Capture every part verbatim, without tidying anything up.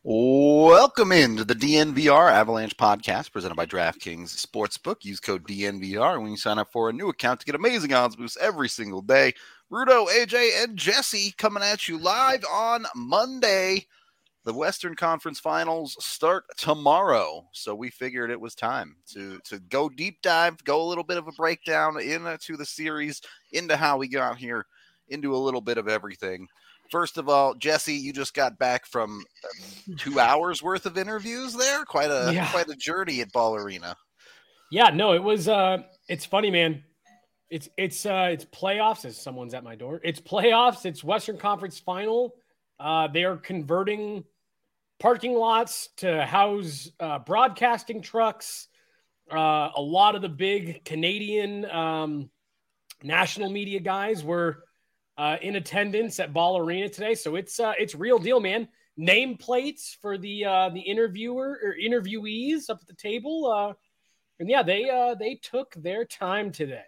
Welcome into the D N V R Avalanche podcast presented by DraftKings Sportsbook. Use code D N V R when you sign up for a new account to get amazing odds boosts every single day. Rudo, A J, and Jesse coming at you live on Monday. The Western Conference Finals start tomorrow, so we figured it was time to, to go deep dive, go a little bit of a breakdown into the series, into how we got here, into a little bit of everything. First of all, Jesse, you just got back from two hours worth of interviews there. Quite a yeah. quite a journey at Ball Arena. Yeah, no, it was. Uh, it's funny, man. It's it's uh, it's playoffs. As someone's at my door. It's playoffs. It's Western Conference Final. Uh, they are converting parking lots to house uh, broadcasting trucks. Uh, a lot of the big Canadian um, national media guys were Uh, in attendance at Ball Arena today. So it's uh, it's real deal, man. Name plates for the uh, the interviewer or interviewees up at the table. Uh, and yeah, they uh, they took their time today.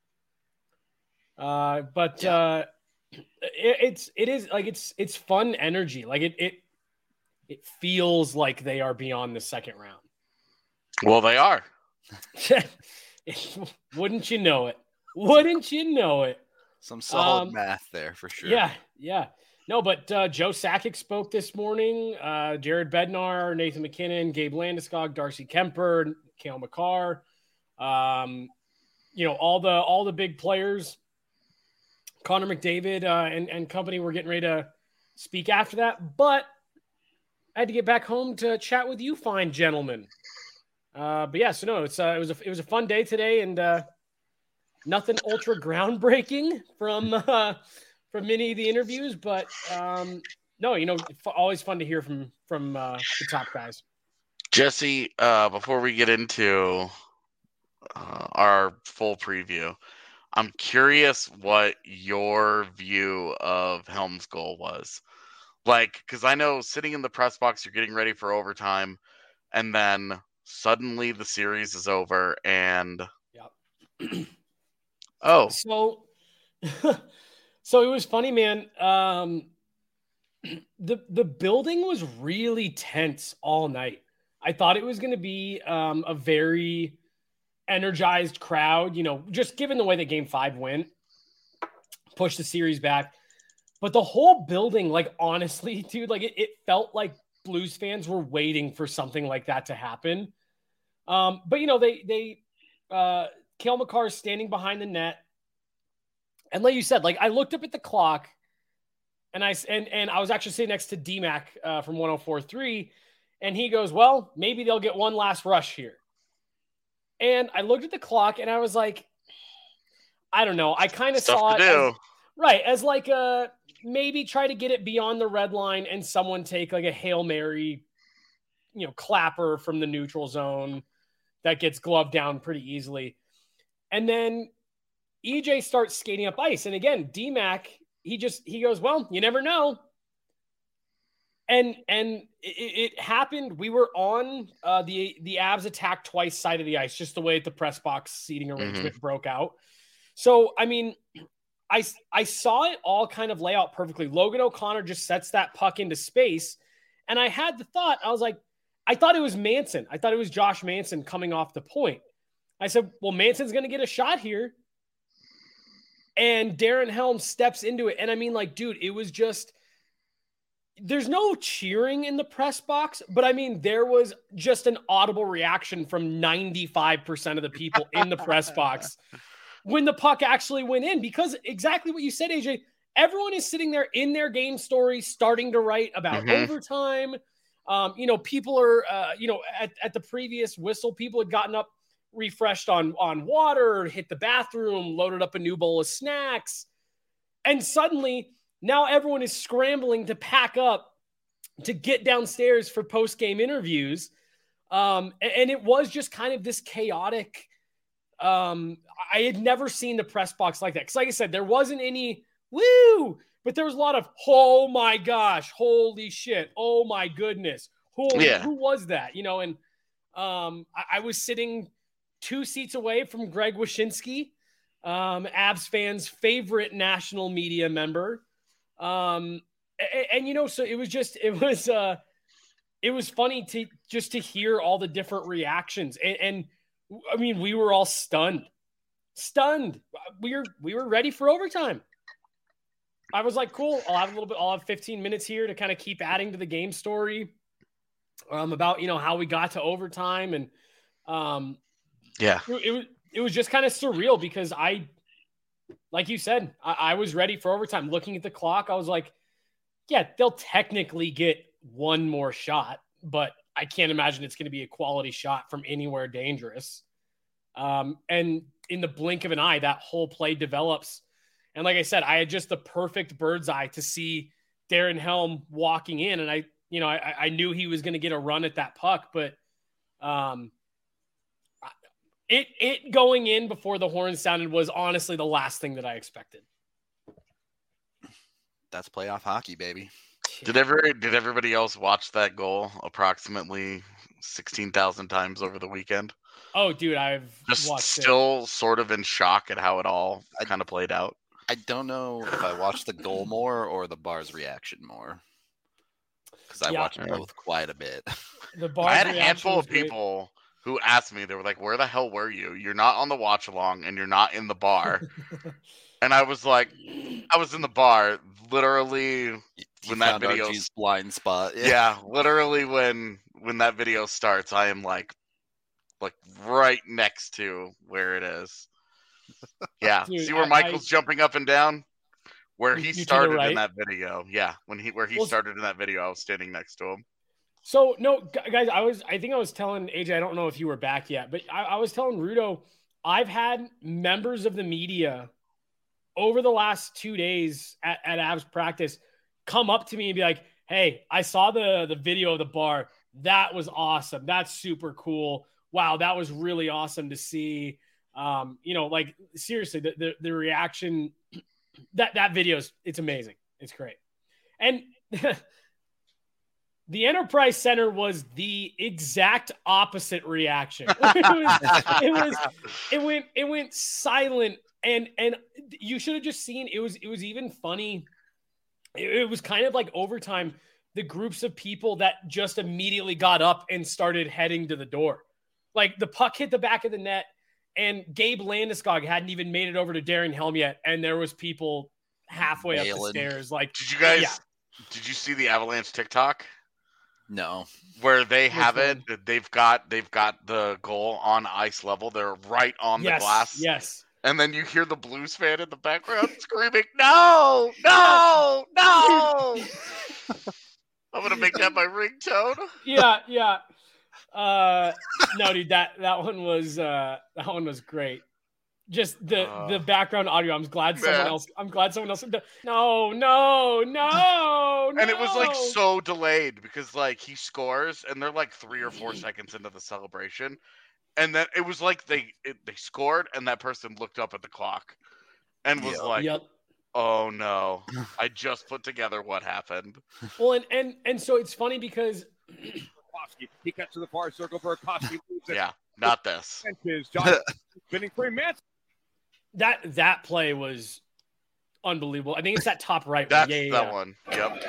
Uh, but yeah. uh, it, it's it is like it's it's fun energy. Like it it it feels like they are beyond the second round. Well, they are. Wouldn't you know it? Wouldn't you know it? Some solid um, math there for sure. Yeah, yeah. No, but uh, Joe Sakic spoke this morning. Uh, Jared Bednar, Nathan MacKinnon, Gabe Landeskog, Darcy Kemper, Cale Makar. Um, you know, all the all the big players. Connor McDavid uh, and, and company were getting ready to speak after that. But I had to get back home to chat with you fine gentlemen. Uh, but yeah, so no, it's uh, it was a, it was a fun day today, and uh, nothing ultra groundbreaking from uh, from many of the interviews, but um, no, you know, f- always fun to hear from from uh, the top guys. Jesse, uh, before we get into uh, our full preview, I'm curious what your view of Helm's goal was. Like, because I know sitting in the press box, you're getting ready for overtime, and then suddenly the series is over, and yep. Oh, so, so it was funny, man. Um, the the building was really tense all night. I thought it was going to be um, a very energized crowd, you know, just given the way that Game Five went, pushed the series back. But the whole building, like honestly, dude, like it, it felt like Blues fans were waiting for something like that to happen. Um, but you know, they they. Uh, Cale Makar is standing behind the net. And like you said, like I looked up at the clock and I, and, and I was actually sitting next to D-Mac uh, from one oh four point three. And he goes, well, maybe they'll get one last rush here. And I looked at the clock and I was like, I don't know. I kind of saw it as, right. As like a, maybe try to get it beyond the red line and someone take like a Hail Mary, you know, clapper from the neutral zone that gets gloved down pretty easily. And then E J starts skating up ice. And again, D-Mac, he just, he goes, well, you never know. And, and it, it happened. We were on uh, the, the Avs attack twice side of the ice, just the way the press box seating arrangement mm-hmm. broke out. So, I mean, I, I saw it all kind of lay out perfectly. Logan O'Connor just sets that puck into space. And I had the thought, I was like, I thought it was Manson. I thought it was Josh Manson coming off the point. I said, well, Manson's going to get a shot here. And Darren Helm steps into it. And I mean, like, dude, it was just, there's no cheering in the press box, but I mean, there was just an audible reaction from ninety-five percent of the people in the press box when the puck actually went in, because exactly what you said, A J, everyone is sitting there in their game story, starting to write about mm-hmm. overtime. Um, you know, people are, uh, you know, at, at the previous whistle, people had gotten up, refreshed on, on water, hit the bathroom, loaded up a new bowl of snacks. And suddenly now everyone is scrambling to pack up to get downstairs for post-game interviews. Um, and, and it was just kind of this chaotic. Um, I had never seen the press box like that. Cause like I said, there wasn't any woo, but there was a lot of, oh my gosh, holy shit. Oh my goodness. Who, yeah. who was that? You know, and um, I, I was sitting two seats away from Greg Wyshynski, um, Avs fans' favorite national media member. Um, and, and, you know, so it was just, it was, uh, it was funny to just to hear all the different reactions. And, and I mean, we were all stunned, stunned. We were, we were ready for overtime. I was like, cool. I'll have a little bit, I'll have fifteen minutes here to kind of keep adding to the game story um, about, you know, how we got to overtime. And um, yeah, it, it was, it was just kind of surreal because I, like you said, I, I was ready for overtime. Looking at the clock, I was like, yeah, they'll technically get one more shot, but I can't imagine it's going to be a quality shot from anywhere dangerous. Um, and in the blink of an eye, that whole play develops. And like I said, I had just the perfect bird's eye to see Darren Helm walking in. And I, you know, I, I knew he was going to get a run at that puck, but um, it, it going in before the horn sounded was honestly the last thing that I expected. That's playoff hockey, baby. Did ever did everybody else watch that goal approximately sixteen thousand times over the weekend? Oh, dude, I've just watched still it. Sort of in shock at how it all kind of played out. I don't know if I watched the goal more or the Bar's reaction more, because I Yeah. watched both quite a bit. The Bar's I had a reaction handful was of great. people who asked me. They were like, "Where the hell were you? You're not on the watch along, and you're not in the bar." And I was like, "I was in the bar, literally." You When that found video- R G's blind spot. Yeah, literally when when that video starts, I am like, like right next to where it is. Yeah, Dude, see where I- Michael's I- jumping up and down, where You- he you to the started right? in that video. Yeah, when he where he Well, started in that video, I was standing next to him. So no, gu- guys, I was, I think I was telling A J, I don't know if you were back yet, but I, I was telling Rudo, I've had members of the media over the last two days at, at Avs practice come up to me and be like, "Hey, I saw the the video of the bar. That was awesome. That's super cool. Wow, that was really awesome to see." Um, you know, like seriously, the the, the reaction that that video's it's amazing. It's great, and. The Enterprise Center was the exact opposite reaction. It was, it was, it went, it went silent, and and you should have just seen. It was, it was even funny. It, it was kind of like overtime. The groups of people that just immediately got up and started heading to the door, like the puck hit the back of the net, and Gabe Landeskog hadn't even made it over to Darren Helm yet, and there was people halfway up the Bailing. stairs. Like, Did you guys? Yeah. Did you see the Avalanche TikTok? No. Where they Which have it, one? they've got they've got the goal on ice level. They're right on yes, the glass, yes. and then you hear the Blues fan in the background screaming, "No, no, no!" I'm gonna make that my ringtone. yeah, yeah. Uh, no, dude, that that one was uh, that one was great. Just the Uh, the background audio. I'm glad someone man. else. I'm glad someone else. No, no, no, no. And it was like so delayed because like he scores and they're like three or four seconds into the celebration, and then it was like they it, they scored and that person looked up at the clock and was Yep. like, Yep. "Oh no, I just put together what happened." Well, and and and so it's funny because Koski. He cuts to the far circle for Koski. Yeah, not this. Benches. John spinning three minutes. that that play was unbelievable. I think it's that top right one. That's Yeah, yeah, that yeah. one. Yep.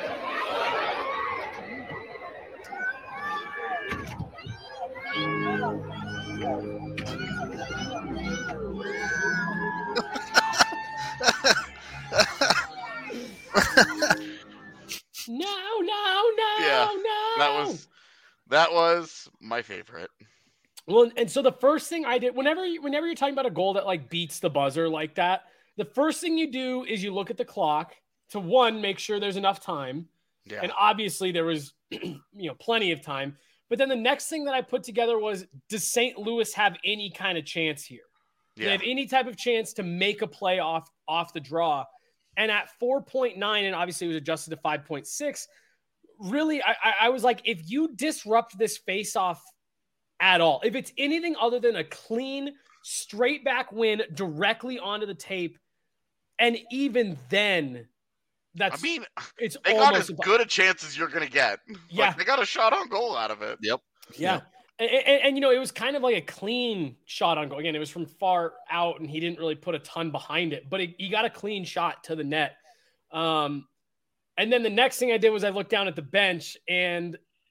No, no, no, Yeah, no. That was that was my favorite. Well, and so the first thing I did, whenever you, whenever you're talking about a goal that like beats the buzzer like that, the first thing you do is you look at the clock to one, make sure there's enough time. Yeah. And obviously there was, you know, plenty of time. But then the next thing that I put together was, does Saint Louis have any kind of chance here? Do they Yeah. have any type of chance to make a play off, off the draw? And at four point nine, and obviously it was adjusted to five point six, really, I, I, I was like, if you disrupt this face-off at all, if it's anything other than a clean, straight back win directly onto the tape, and even then, that's I mean, it's they got almost as impo- good a chance as you're gonna get. Yeah. Like, they got a shot on goal out of it. Yep. Yeah. And, and, and, you know, it was kind of like a clean shot on goal. Again, it was from far out and he didn't really put a ton behind it, but it, he got a clean shot to the net. Um, and then the next thing I did was I looked down at the bench and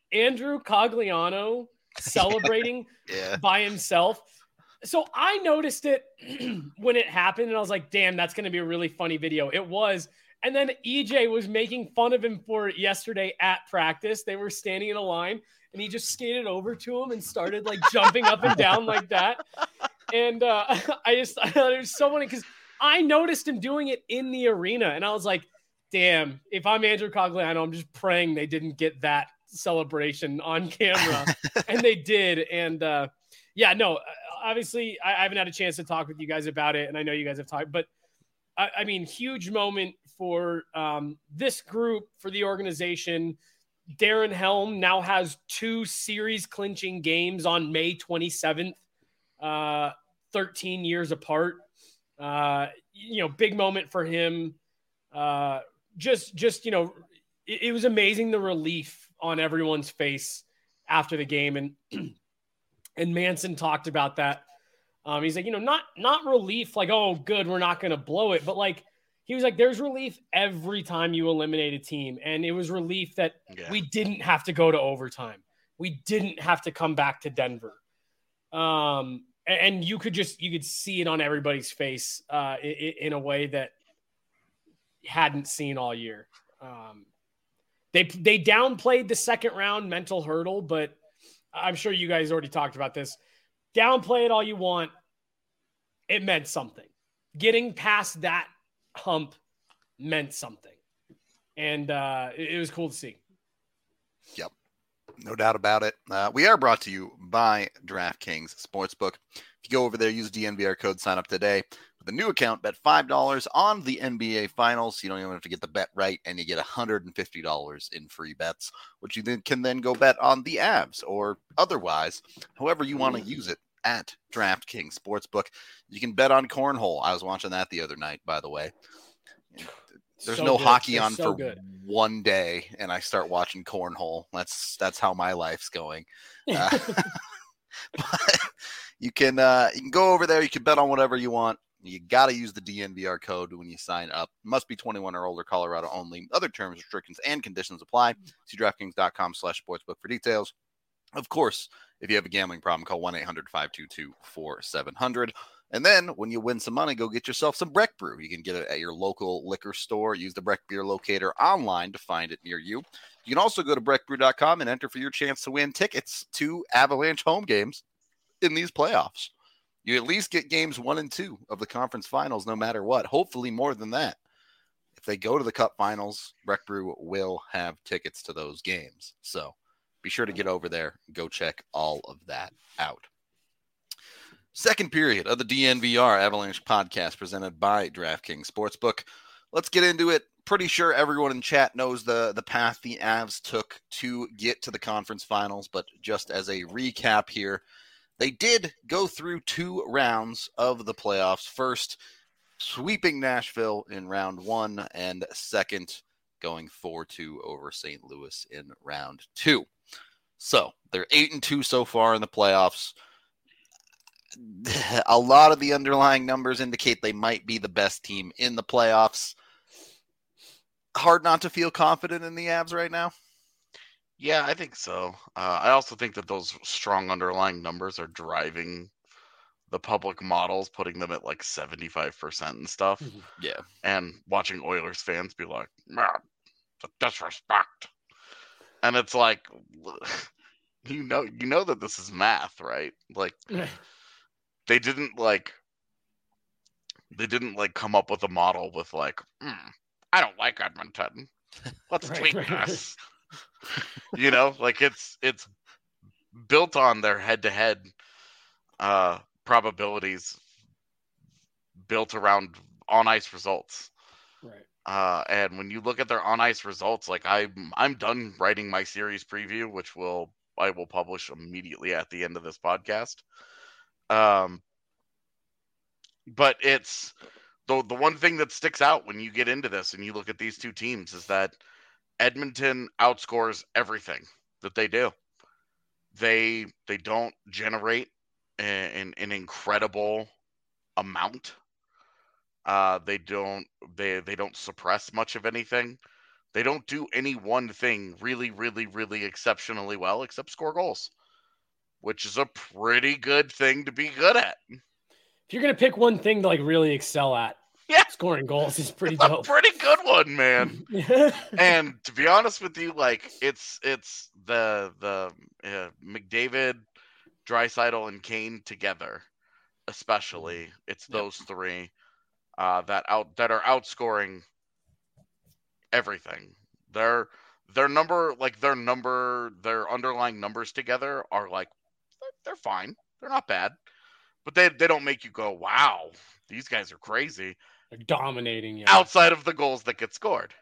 Andrew Cogliano celebrating Yeah. by himself. So I noticed it when it happened, and I was like, damn, that's going to be a really funny video. It was. And then E J was making fun of him for it yesterday at practice. They were standing in a line, and he just skated over to him and started like jumping up and down like that. And uh, I just I thought it was so funny because I noticed him doing it in the arena, and I was like, damn, if I'm Andrew Cogliano, I'm just praying they didn't get that celebration on camera. And they did. And uh, yeah, no, obviously I, I haven't had a chance to talk with you guys about it. And I know you guys have talked, but I, I mean, huge moment for um, this group, for the organization. Darren Helm now has two series clinching games on May twenty-seventh, uh, thirteen years apart. Uh, you know, big moment for him. Uh, just, just, you know, it, it was amazing the relief on everyone's face after the game. And, and Manson talked about that. Um, he's like, you know, not, not relief, like, oh, good, we're not going to blow it. But like, he was like, there's relief every time you eliminate a team. And it was relief that yeah. we didn't have to go to overtime. We didn't have to come back to Denver. Um, and, and you could just, you could see it on everybody's face uh, in, in a way that hadn't seen all year. Um, they, they downplayed the second round mental hurdle, but I'm sure you guys already talked about this. Downplay it all you want. It meant something. Getting past that hump meant something. And uh, it, it was cool to see. Yep. No doubt about it. Uh, we are brought to you by DraftKings Sportsbook. If you go over there, use the D N V R code, sign up today. With a new account, bet five dollars on the N B A Finals. You don't even have to get the bet right, and you get one hundred fifty dollars in free bets, which you then can then go bet on the Avs or otherwise, however you want to use it at DraftKings Sportsbook. You can bet on cornhole. I was watching that the other night, by the way. There's so no good. hockey They're on so for good. one day, and I start watching cornhole. That's that's how my life's going. Uh, but you can uh, you can go over there. You can bet on whatever you want. You got to use the D N V R code when you sign up. Must be twenty-one or older, Colorado only. Other terms, restrictions, and conditions apply. See DraftKings.com slash sportsbook for details. Of course, if you have a gambling problem, call one eight hundred five two two four seven zero zero. And then when you win some money, go get yourself some Breck Brew. You can get it at your local liquor store. Use the Breck Beer Locator online to find it near you. You can also go to breck brew dot com and enter for your chance to win tickets to Avalanche home games in these playoffs. You at least get games one and two of the conference finals, no matter what. Hopefully more than that. If they go to the Cup finals, Breck Brew will have tickets to those games. So be sure to get over there and go check all of that out. Second period of the D N V R Avalanche podcast presented by DraftKings Sportsbook. Let's get into it. Pretty sure everyone in chat knows the, the path the Avs took to get to the conference finals, but just as a recap here, they did go through two rounds of the playoffs. First, sweeping Nashville in round one, and second, going four two over Saint Louis in round two. So they're eight and two so far in the playoffs. A lot of the underlying numbers indicate they might be the best team in the playoffs. Hard not to feel confident in the Avs right now. Yeah, I think so. Uh, I also think that those strong underlying numbers are driving the public models, putting them at like seventy-five percent and stuff. Yeah. And watching Oilers fans be like, man, the disrespect. And it's like, you know, you know that this is math, right? Like, they didn't like, they didn't like come up with a model with like, mm, I don't like Edmonton. Let's Right, tweak right, this. You know, like it's it's built on their head-to-head uh, probabilities, built around on-ice results. Right. Uh, and when you look at their on-ice results, like I'm I'm done writing my series preview, which will I will publish immediately at the end of this podcast. Um, but it's the the one thing that sticks out when you get into this and you look at these two teams is that Edmonton outscores everything that they do. They they don't generate an, an incredible amount. Uh, they don't they they don't suppress much of anything. They don't do any one thing really, really, really exceptionally well except score goals, which is a pretty good thing to be good at. If you're going to pick one thing to like really excel at, yeah, scoring goals is pretty it's dope. A pretty good one, man. And to be honest with you, like it's it's the the uh, McDavid, Draisaitl, and Kane together, especially. It's those yep. three uh, that out that are outscoring everything. Their their number, like their number, their underlying numbers together are like they're fine. They're not bad, but they they don't make you go, wow, these guys are crazy. They're dominating you outside of the goals that get scored.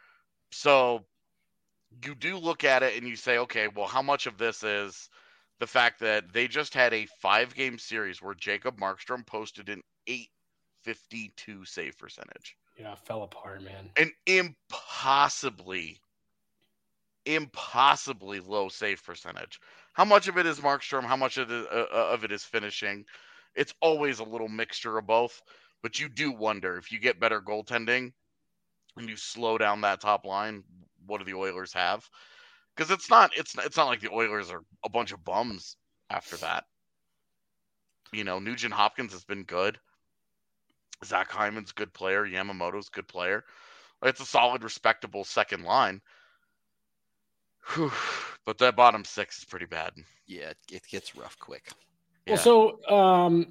So you do look at it and you say, okay, well, how much of this is the fact that they just had a five-game series where Jacob Markstrom posted an eight fifty-two save percentage. Yeah, fell apart, man. An impossibly, impossibly low save percentage. How much of it is Markstrom? How much of it, uh, of it is finishing? It's always a little mixture of both. But you do wonder if you get better goaltending and you slow down that top line, what do the Oilers have? Because it's not it's it's not like the Oilers are a bunch of bums after that. You know, Nugent Hopkins has been good. Zach Hyman's a good player. Yamamoto's a good player. It's a solid, respectable second line. Whew. But that bottom six is pretty bad. Yeah, it, it gets rough quick. Well, yeah. so um.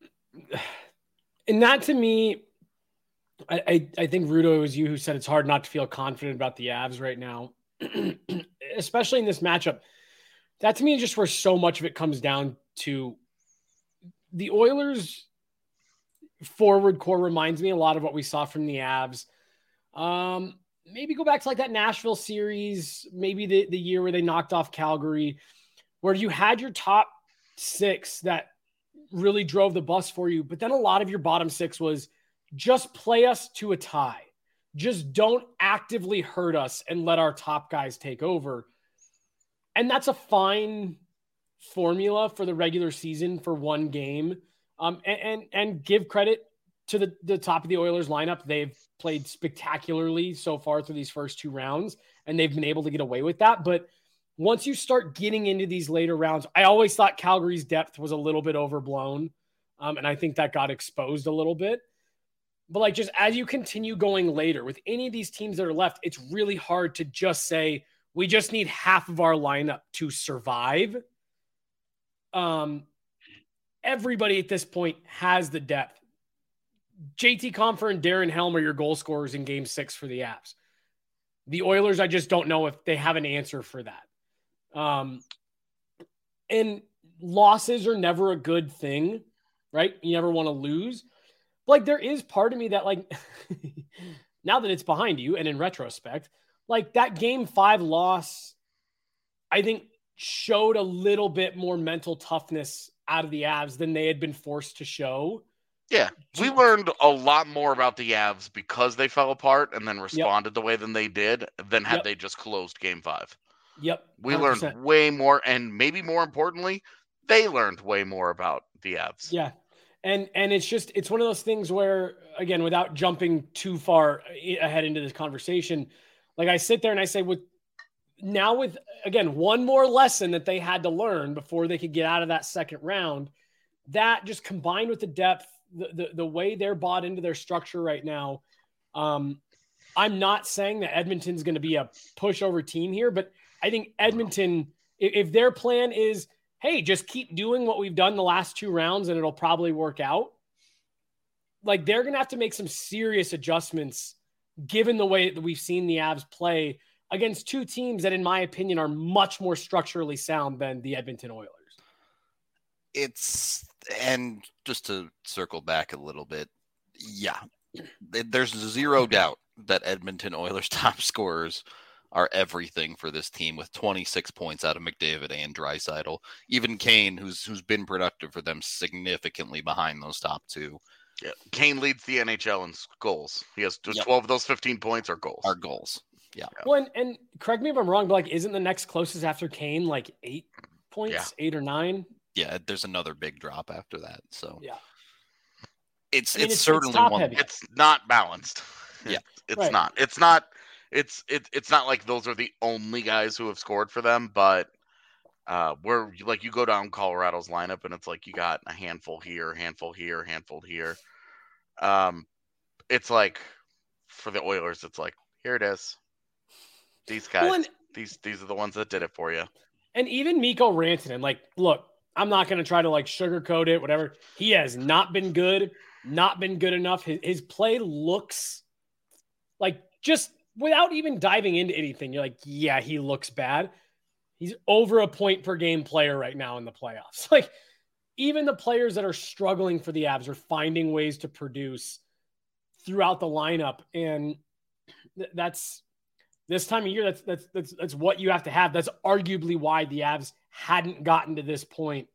And that to me, I, I, I think, Rudo, it was you who said it's hard not to feel confident about the Avs right now, especially in this matchup. That to me is just where so much of it comes down to. The Oilers forward core reminds me a lot of what we saw from the Avs. Um, maybe go back to like that Nashville series, maybe the, the year where they knocked off Calgary, where you had your top six that really drove the bus for you. But then a lot of your bottom six was just play us to a tie. Just don't actively hurt us and let our top guys take over. And that's a fine formula for the regular season for one game. Um, and, and, and give credit to the, the top of the Oilers lineup. They've played spectacularly so far through these first two rounds, and they've been able to get away with that. But once you start getting into these later rounds, I always thought Calgary's depth was a little bit overblown. Um, and I think that got exposed a little bit. But like, just as you continue going later with any of these teams that are left, it's really hard to just say, we just need half of our lineup to survive. Um, everybody at this point has the depth. J T Compher and Darren Helm are your goal scorers in game six for the Avs. The Oilers, I just don't know if they have an answer for that. Um, and losses are never a good thing, right? You never want to lose. But like, there is part of me that, like, now that it's behind you and in retrospect, like that game five loss, I think showed a little bit more mental toughness out of the Avs than they had been forced to show. Yeah, we learned a lot more about the Avs because they fell apart and then responded yep. the way than they did than had yep. they just closed game five. Yep. one hundred percent. We learned way more, and maybe more importantly, they learned way more about the Avs. Yeah. And and it's just, it's one of those things where, again, without jumping too far ahead into this conversation, like I sit there and I say, with now with, again, one more lesson that they had to learn before they could get out of that second round, that just combined with the depth, the, the, the way they're bought into their structure right now. Um, I'm not saying that Edmonton's going to be a pushover team here, but I think Edmonton, if, if their plan is, hey, just keep doing what we've done the last two rounds and it'll probably work out, like they're going to have to make some serious adjustments given the way that we've seen the Avs play against two teams that, in my opinion, are much more structurally sound than the Edmonton Oilers. It's, and just to circle back a little bit, yeah, there's zero doubt that Edmonton Oilers top scorers are everything for this team with twenty-six points out of McDavid and Draisaitl. Even Kane, who's who's been productive for them, significantly behind those top two. Yeah, Kane leads the N H L in goals. He has just yep. twelve of those fifteen points are goals. Are goals. Yeah. Well, and, and correct me if I'm wrong, but like, isn't the next closest after Kane like eight points, yeah. eight or nine? Yeah, there's another big drop after that. So yeah, it's I mean, it's, it's certainly it's one. It's not balanced. Yeah, it's right. not. It's not. it's it, it's not like those are the only guys who have scored for them, but uh, where like you go down Colorado's lineup and it's like you got a handful here, handful here, handful here. Um, it's like for the Oilers, it's like here it is. These guys, Well, and- these these are the ones that did it for you. And even Mikko Rantanen, like, look, I'm not going to try to like sugarcoat it, whatever. He has not been good, not been good enough. His, his play looks like, just without even diving into anything, you're like, yeah, he looks bad. He's over a point per game player right now in the playoffs. Like, even the players that are struggling for the Avs are finding ways to produce throughout the lineup. And th- that's this time of year, that's, that's, that's, that's what you have to have. That's arguably why the Avs hadn't gotten to this point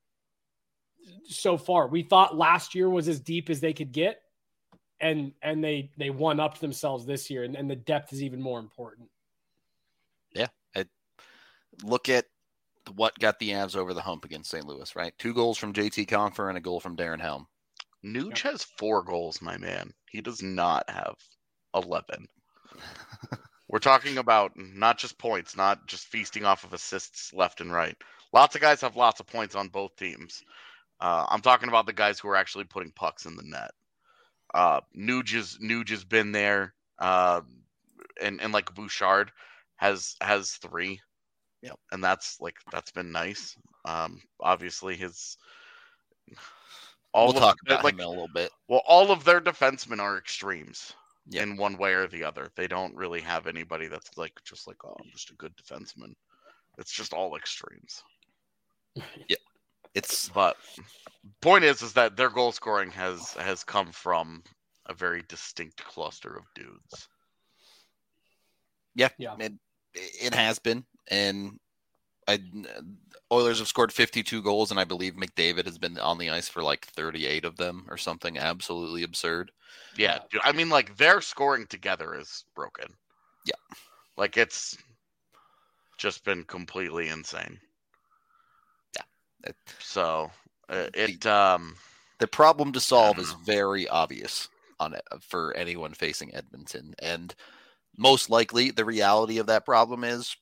so far. We thought last year was as deep as they could get, and and they they one upped themselves this year, and, and the depth is even more important. Yeah, I look at what got the Avs over the hump against Saint Louis, right? Two goals from J T Compher and a goal from Darren Helm. Nuge has four goals, my man. He does not have eleven. We're talking about not just points, not just feasting off of assists left and right. Lots of guys have lots of points on both teams. Uh, I'm talking about the guys who are actually putting pucks in the net. Uh, Nuge, is, Nuge has been there, uh, and and like Bouchard has has three. Yep. And that's like that's been nice. Um, obviously his all we'll of, talk about like, him in a little bit. Well, all of their defensemen are extremes. Yep. In one way or the other. They don't really have anybody that's like just like, oh, I'm just a good defenseman. It's just all extremes. Yeah. It's but point is is that their goal scoring has has come from a very distinct cluster of dudes. Yeah, yeah. It, it has been. And I Oilers have scored fifty-two goals, and I believe McDavid has been on the ice for like thirty-eight of them or something absolutely absurd. Yeah, dude, I mean, like, their scoring together is broken. Yeah. Like, it's just been completely insane. Yeah. It, so, uh, it... um, the problem to solve is know. very obvious on it for anyone facing Edmonton. And most likely, the reality of that problem is...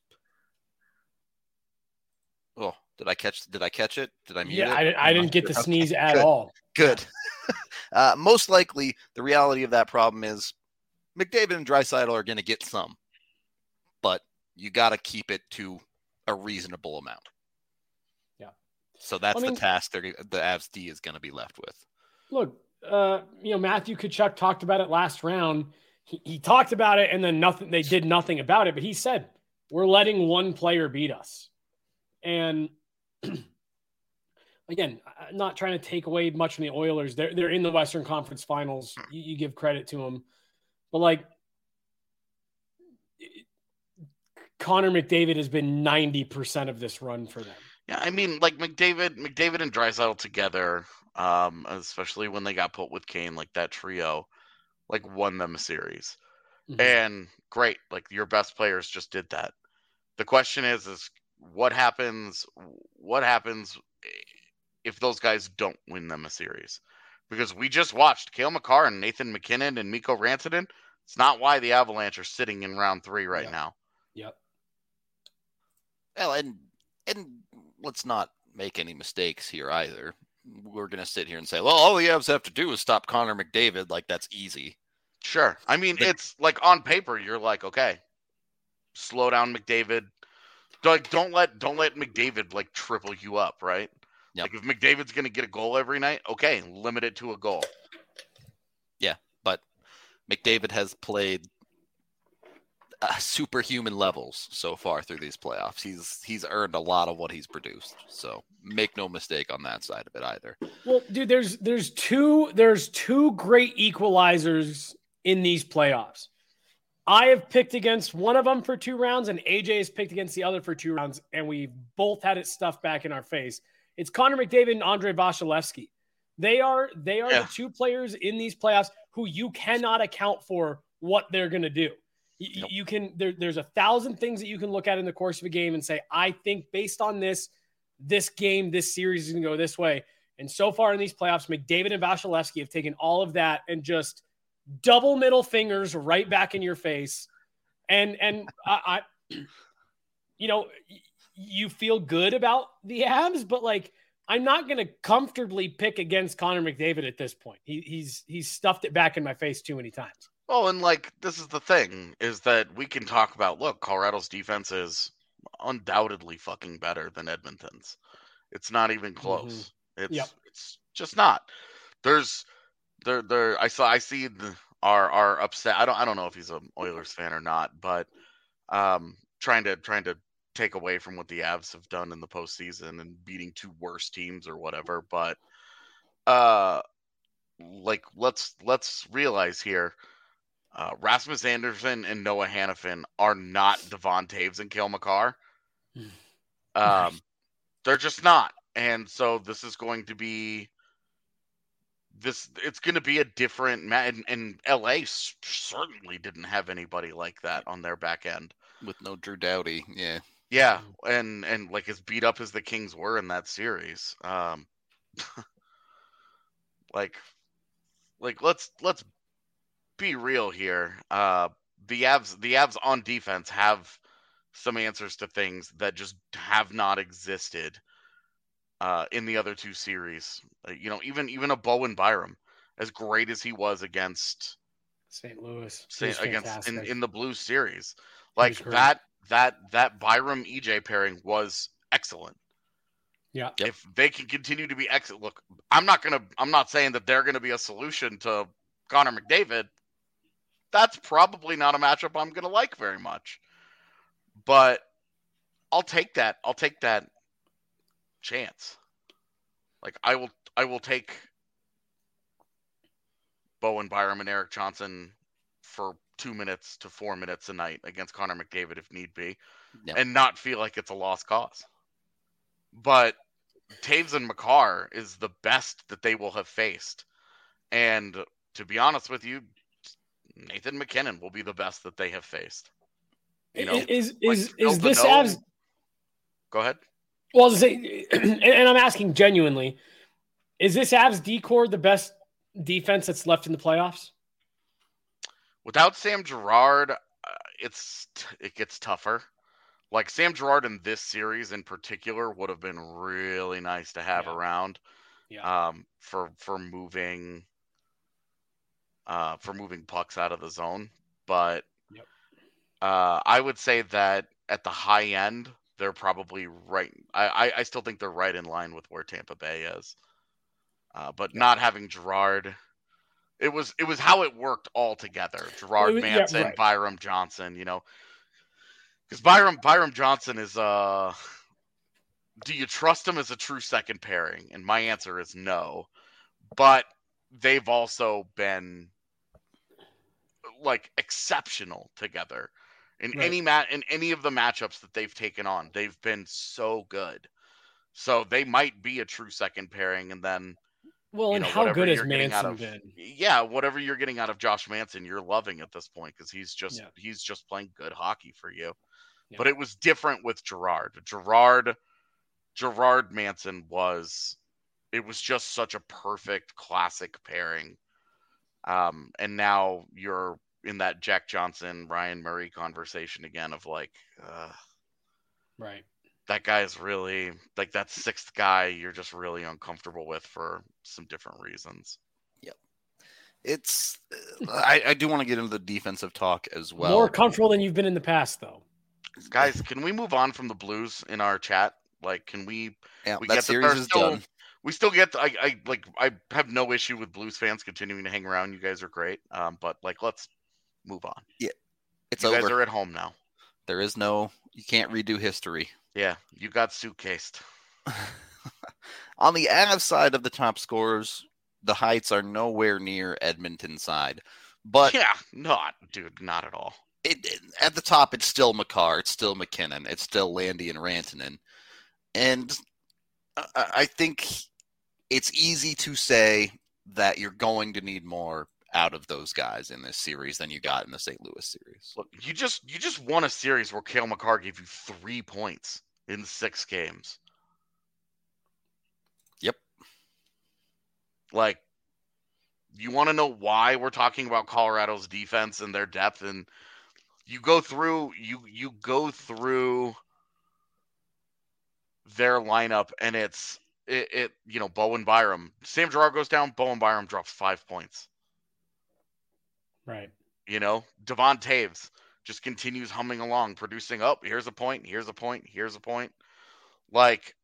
Oh, did I catch Did I catch it? Did I mute yeah, it? I, I didn't get to sneeze okay, at good. all. Good. uh, most likely, the reality of that problem is McDavid and Draisaitl are going to get some, but you got to keep it to a reasonable amount. Yeah. So that's I mean, the task the Avs D is going to be left with. Look, uh, you know, Matthew Tkachuk talked about it last round. He, he talked about it, and then nothing. They did nothing about it. But he said, "We're letting one player beat us." And again, I'm not trying to take away much from the Oilers. They're they're in the Western Conference Finals. You, you give credit to them, but like Connor McDavid has been ninety percent of this run for them. Yeah, I mean, like McDavid, McDavid and Draisaitl together, um, especially when they got put with Kane, like that trio, like won them a series. Mm-hmm. And great, like your best players just did that. The question is, is what happens? What happens if those guys don't win them a series? Because we just watched Cale Makar and Nathan MacKinnon and Mikko Rantanen. It's not why the Avalanche are sitting in round three right yeah. now. Yep. Well, and and let's not make any mistakes here either. We're going to sit here and say, well, all the Avs have to do is stop Connor McDavid. Like, that's easy. Sure. I mean, but, it's like on paper, you're like, okay, slow down McDavid. Like, don't let don't let McDavid like triple you up, right? Yep. Like if McDavid's going to get a goal every night, okay, limit it to a goal. Yeah, but McDavid has played uh, superhuman levels so far through these playoffs. He's he's earned a lot of what he's produced. So make no mistake on that side of it either. Well, dude, there's there's two there's two great equalizers in these playoffs. I have picked against one of them for two rounds, and A J has picked against the other for two rounds, and we both had it stuffed back in our face. It's Connor McDavid and Andrei Vasilevskiy. They are they are Yeah. the two players in these playoffs who you cannot account for what they're going to do. You, Nope. you can there, there's a thousand things that you can look at in the course of a game and say, I think based on this, this game, this series is going to go this way. And so far in these playoffs, McDavid and Vasilevskiy have taken all of that and just double middle fingers right back in your face And and I, I you know, you feel good about the Avs, but like I'm not going to comfortably pick against Connor McDavid at this point. He, he's he's stuffed it back in my face too many times. Well, and like this is the thing is that we can talk about. Look, Colorado's defense is undoubtedly fucking better than Edmonton's. It's not even close. Mm-hmm. It's yep. it's just not. There's there there. I saw I see the, our our upset. I don't I don't know if he's an Oilers fan or not, but um, trying to trying to. take away from what the Avs have done in the postseason and beating two worst teams or whatever. But uh, like let's let's realize here, uh, Rasmus Anderson and Noah Hannafin are not Devon Taves and Cale Makar. Um, they're just not, and so this is going to be this. It's going to be a different match. And, and L A certainly didn't have anybody like that on their back end with no Drew Doughty. Yeah. Yeah, and, and like as beat up as the Kings were in that series, um, like, like let's let's be real here. Uh, the Avs, the Avs on defense have some answers to things that just have not existed uh, in the other two series. Uh, you know, even even a Bowen Byram, as great as he was against Saint Louis, Saint, against in, in the Blues series, like that. That that Byram E J pairing was excellent. Yeah. If they can continue to be excellent, look, I'm not gonna. I'm not saying that they're gonna be a solution to Connor McDavid. That's probably not a matchup I'm gonna like very much. But I'll take that. I'll take that chance. Like I will. I will take Bowen Byram and Eric Johnson for two minutes to four minutes a night against Connor McDavid if need be, yep. and not feel like it's a lost cause. But Taves and Makar is the best that they will have faced. And to be honest with you, Nathan McKinnon will be the best that they have faced. You know, is like, is is this Avs? Go ahead. Well, to say, and I'm asking genuinely, is this Avs D-core the best defense that's left in the playoffs? Without Sam Girard, uh, it's it gets tougher. Like Sam Girard in this series in particular would have been really nice to have yeah. around, yeah. um, for for moving, uh, for moving pucks out of the zone. But yep. uh, I would say that at the high end, they're probably right. I, I, I still think they're right in line with where Tampa Bay is. Uh, but yep. not having Girard. It was it was how it worked all together. Gerard Manson, yeah, right. Byram Johnson, you know. Because Byram Byram Johnson is uh do you trust him as a true second pairing? And my answer is no. But they've also been like exceptional together. In right. any mat in any of the matchups that they've taken on, they've been so good. So they might be a true second pairing, and then Well, you and know, how good has Manson of, been? Yeah, whatever you're getting out of Josh Manson, you're loving at this point because he's just yeah. he's just playing good hockey for you. Yeah. But it was different with Girard. Girard, Girard Manson was it was just such a perfect classic pairing. Um, and now you're in that Jack Johnson, Ryan Murray conversation again of like, uh, right. that guy is really like that sixth guy you're just really uncomfortable with for some different reasons. Yep. It's, I, I do want to get into the defensive talk as well. More comfortable than you've been in the past though. Guys, can we move on from the Blues in our chat? Like, can we, yeah, we that get series is still, done. We still get, the, I, I like, I have no issue with Blues fans continuing to hang around. You guys are great. Um, but like, let's move on. Yeah. It's you over. guys are at home now. There is no, you can't redo history. Yeah, you got suitcased. On the Avs side of the top scorers, the heights are nowhere near Edmonton's side. But yeah, not, dude, not at all. It, it, at the top, it's still Makar, it's still McKinnon, it's still Landy and Rantanen. And I, I think it's easy to say that you're going to need more out of those guys in this series than you got in the Saint Louis series. Look, you just you just won a series where Cale Makar gave you three points in six games. Yep. Like, you want to know why we're talking about Colorado's defense and their depth? And you go through you you go through their lineup, and it's it, it you know Bowen Byram. Sam Girard goes down. Bowen Byram drops five points. Right. You know, Devon Taves just continues humming along, producing. Oh, here's a point. Here's a point. Here's a point. Like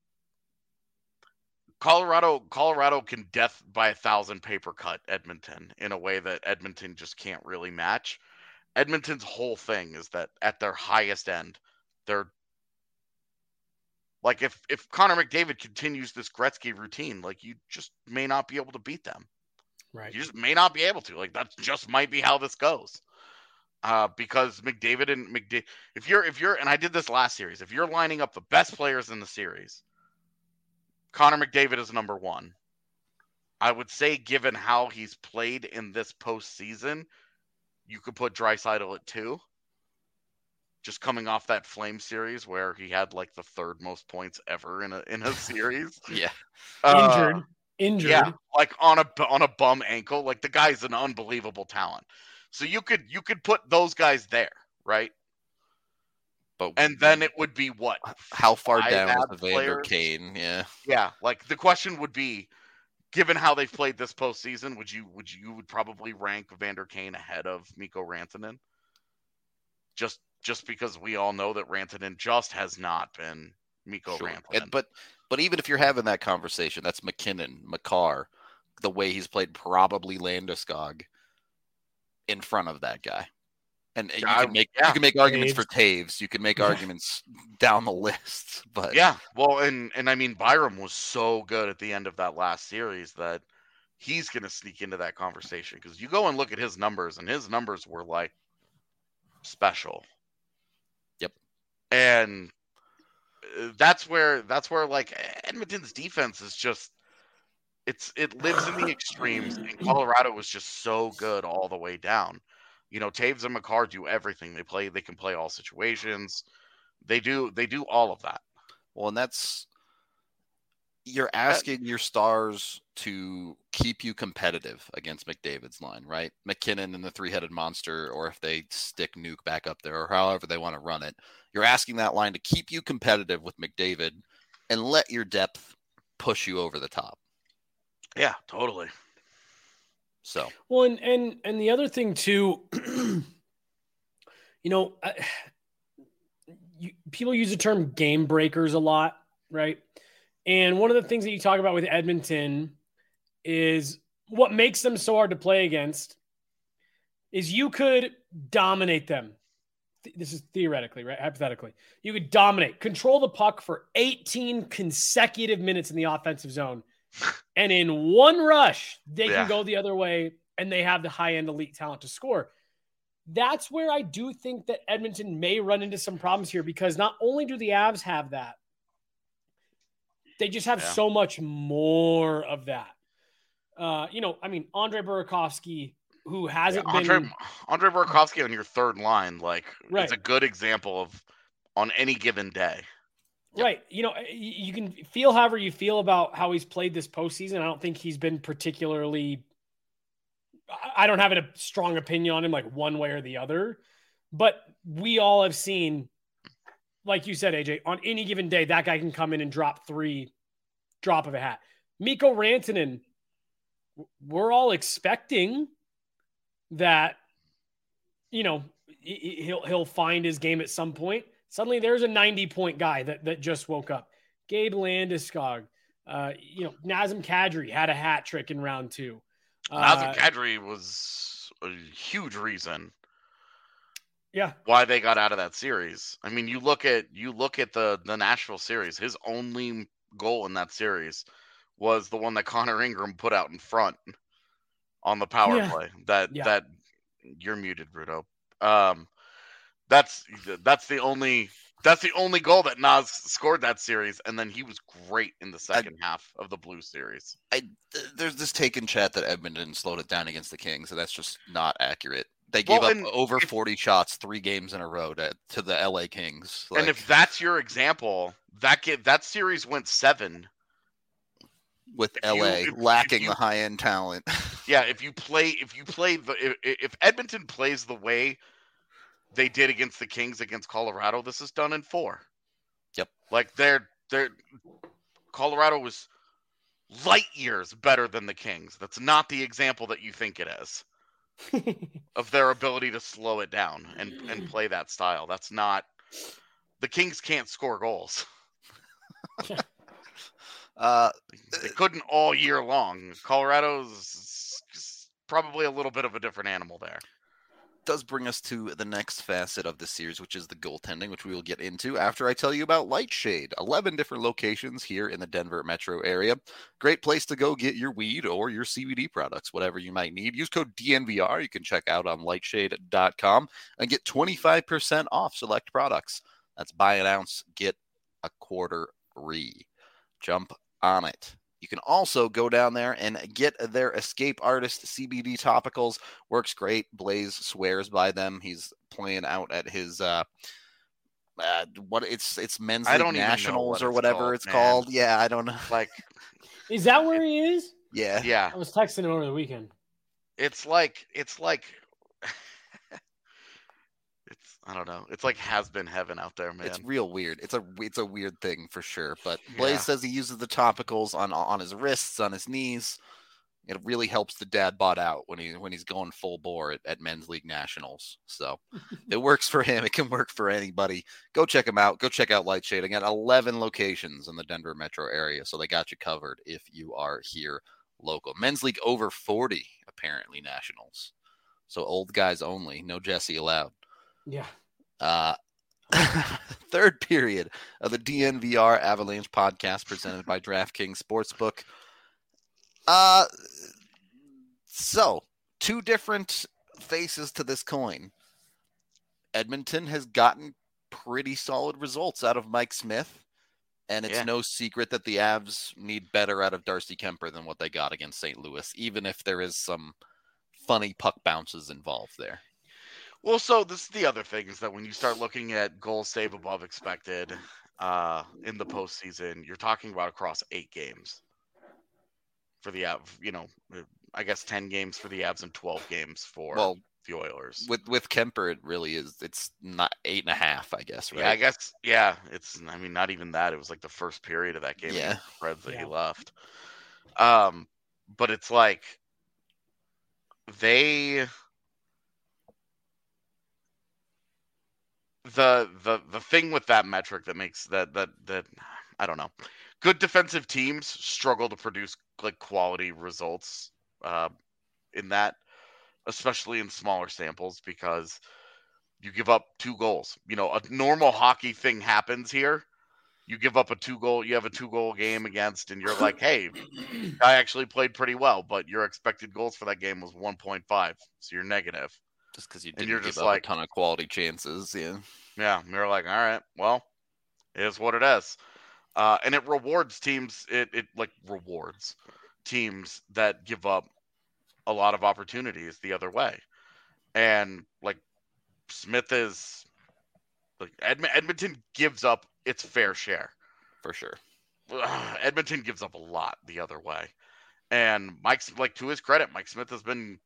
Colorado, Colorado can death by a thousand paper cut Edmonton in a way that Edmonton just can't really match. Edmonton's whole thing is that at their highest end, they're like if if Connor McDavid continues this Gretzky routine, like you just may not be able to beat them. Right. You just may not be able to. Like that just might be how this goes. Uh, because McDavid and McDavid, if you're if you're and I did this last series, if you're lining up the best players in the series, Connor McDavid is number one. I would say, given how he's played in this postseason, you could put Draisaitl at two. Just coming off that Flame series where he had like the third most points ever in a in a series. Yeah. Injured. Uh, Injured. Yeah, like on a on a bum ankle. Like the guy's an unbelievable talent. So you could you could put those guys there, right? But And then it would be what? how far five down is ad the Vander players? Kane? Yeah. Yeah, like the question would be, given how they've played this postseason, would you would you would probably rank Vander Kane ahead of Mikko Rantanen? Just just because we all know that Rantanen just has not been Mikko Sure. Rantanen. And, but but even if you're having that conversation, that's McKinnon, Makar, the way he's played, probably Landeskog in front of that guy. And you I- can make yeah. you can make arguments Taves. for Taves. You can make Yeah. arguments down the list. But Yeah, well, and and I mean Byram was so good at the end of that last series that he's going to sneak into that conversation because you go and look at his numbers, and his numbers were like special. Yep. And uh, that's where that's where like Edmonton's defense is just it's it lives in the extremes, and Colorado was just so good all the way down. You know, Taves and Makar do everything. They play. They can play all situations. They do. They do all of that. well, and that's you're asking your stars to keep you competitive against McDavid's line, right? McKinnon and the three-headed monster, or if they stick Nuke back up there, or however they want to run it. You're asking that line to keep you competitive with McDavid and let your depth push you over the top. Yeah, totally. So Well, and and and the other thing too, you know, I, you, people use the term game breakers a lot, right? And one of the things that you talk about with Edmonton is what makes them so hard to play against is you could dominate them. This is theoretically, right? Hypothetically, you could dominate, control the puck for eighteen consecutive minutes in the offensive zone. And in one rush, they Yeah. can go the other way, and they have the high-end elite talent to score. That's where I do think that Edmonton may run into some problems here, because not only do the Avs have that, they just have Yeah. so much more of that. Uh, you know, I mean, Andre Burakovsky, who hasn't Andre been Andre Burakovsky on your third line, like Right. it's a good example of on any given day. right. You know, y- you can feel however you feel about how he's played this postseason. I don't think he's been particularly. I I don't have a strong opinion on him, like one way or the other. But we all have seen, like you said, A J, on any given day, that guy can come in and drop three, drop of a hat. Mikko Rantanen, w- we're all expecting that, you know, he- he- he'll he'll find his game at some point. Suddenly, there's a ninety-point guy that that just woke up. Gabe Landeskog, uh, you know, Nazem Kadri had a hat trick in round two. Nazem Uh, Kadri was a huge reason yeah, why they got out of that series. I mean, you look at you look at the the Nashville series. His only goal in that series was the one that Connor Ingram put out in front on the power Yeah. play. That Yeah. that you're muted, Rudo. Um, that's that's the only that's the only goal that Nas scored that series, and then he was great in the second half of the Blue series. I th- there's this take in chat that Edmonton slowed it down against the Kings, and that's just not accurate. They gave Well, up and over if- forty shots three games in a row to, to the L A Kings. and Like, if that's your example, that get, that series went seven. with if L A you- if- if lacking you- the high end talent. Yeah, if you play if you play the if, if Edmonton plays the way they did against the Kings against Colorado, this is done in four. Yep. Like they're they're Colorado was light years better than the Kings. That's not the example that you think it is of their ability to slow it down and, and play that style. That's not the Kings can't score goals. uh, they couldn't all year long. Colorado's probably a little bit of a different animal there. Does bring us to the next facet of the series, which is the goaltending, which we will get into after I tell you about Lightshade. eleven different locations here in the Denver metro area. Great place to go get your weed or your C B D products, whatever you might need. Use code D N V R. You can check out on lightshade dot com and get twenty-five percent off select products. That's buy an ounce, get a quarter free. Jump on it. You can also go down there and get their Escape Artist C B D topicals. Works great. Blaze swears by them. He's playing out at his uh, uh what it's it's men's I league don't nationals what or it's whatever called, it's man. called. Yeah, I don't know. Like, Is that where he is? Yeah, yeah, I was texting him over the weekend. it's like it's like it's I don't know. It's like has been heaven out there, man. it's real weird. It's a it's a weird thing for sure. But Blaze Yeah. says he uses the topicals on on his wrists, on his knees. It really helps the dad bod out when he when he's going full bore at, at men's league nationals. So it works for him. It can work for anybody. Go check him out. Go check out Lightshade. Again, eleven locations in the Denver metro area. So they got you covered if you are here local. Men's league over forty, apparently nationals. So old guys only. No Jesse allowed. Yeah. Uh, third period of the D N V R Avalanche podcast presented by DraftKings Sportsbook. Uh, so two different faces to this coin. Edmonton has gotten pretty solid results out of Mike Smith, and it's Yeah. no secret that the Avs need better out of Darcy Kemper than what they got against Saint Louis, even if there is some funny puck bounces involved there. Well, so this is the other thing is that when you start looking at goals save above expected uh, in the postseason, you're talking about across eight games for the Avs. You know, I guess ten games for the Avs and twelve games for Well, the Oilers. with with Kemper, it really is. It's not eight and a half, I guess, right? Yeah, I guess. Yeah, it's. I mean, not even that. It was like the first period of that game. Yeah. against the Preds that Yeah. he left. Um, but it's like they. The the the thing with that metric that makes that that that I don't know, good defensive teams struggle to produce like quality results uh, in that, especially in smaller samples because you give up two goals. You know, a normal hockey thing happens here. You give up a two goal, you have a two goal game against, and you're like, hey, I actually played pretty well, but your expected goals for that game was one point five, so you're negative. Just because you And didn't you're give just up like- a ton of quality chances, yeah. Yeah, and you're like, all right, well, it is what it is. Uh, and it rewards teams, it, it like rewards teams that give up a lot of opportunities the other way. And like Smith is, like Edm- Edmonton gives up its fair share. For sure. Ugh, Edmonton gives up a lot the other way. And Mike's, like, to his credit, Mike Smith has been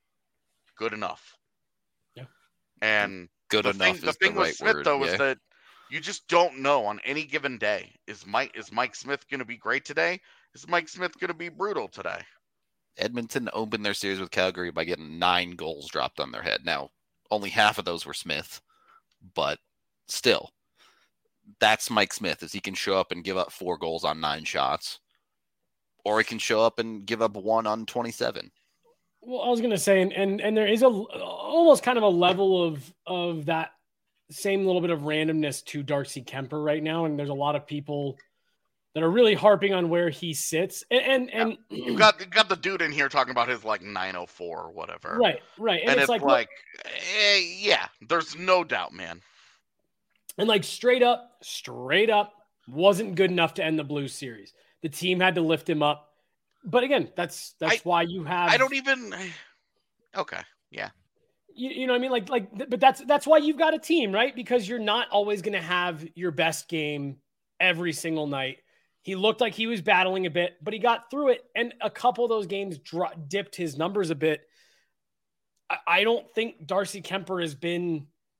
good enough. Yeah. And Good the enough thing, the is thing the with right Smith word. though yeah. is that you just don't know on any given day. Is Mike is Mike Smith going to be great today? Is Mike Smith going to be brutal today? Edmonton opened their series with Calgary by getting nine goals dropped on their head. Now, only half of those were Smith, but still, that's Mike Smith. Is he can show up and give up four goals on nine shots, or he can show up and give up one on twenty-seven. Well, I was gonna say, and and, and there is a almost kind of a level of of that same little bit of randomness to Darcy Kemper right now, and there's a lot of people that are really harping on where he sits, and and, and You got you got the dude in here talking about his like nine oh four or whatever, right, right, and, And, it's, it's like, like, look, eh, yeah, there's no doubt, man. and like straight up, straight up, wasn't good enough to end the Blues series. The team had to lift him up, but again, that's that's I- why you have. I don't even. Okay, yeah, You, you know what I mean? Like, like, th- but that's that's why you've got a team, right? Because you're not always going to have your best game every single night. He looked like he was battling a bit, but he got through it, and a couple of those games dro- dipped his numbers a bit. I, I don't think Darcy Kemper has been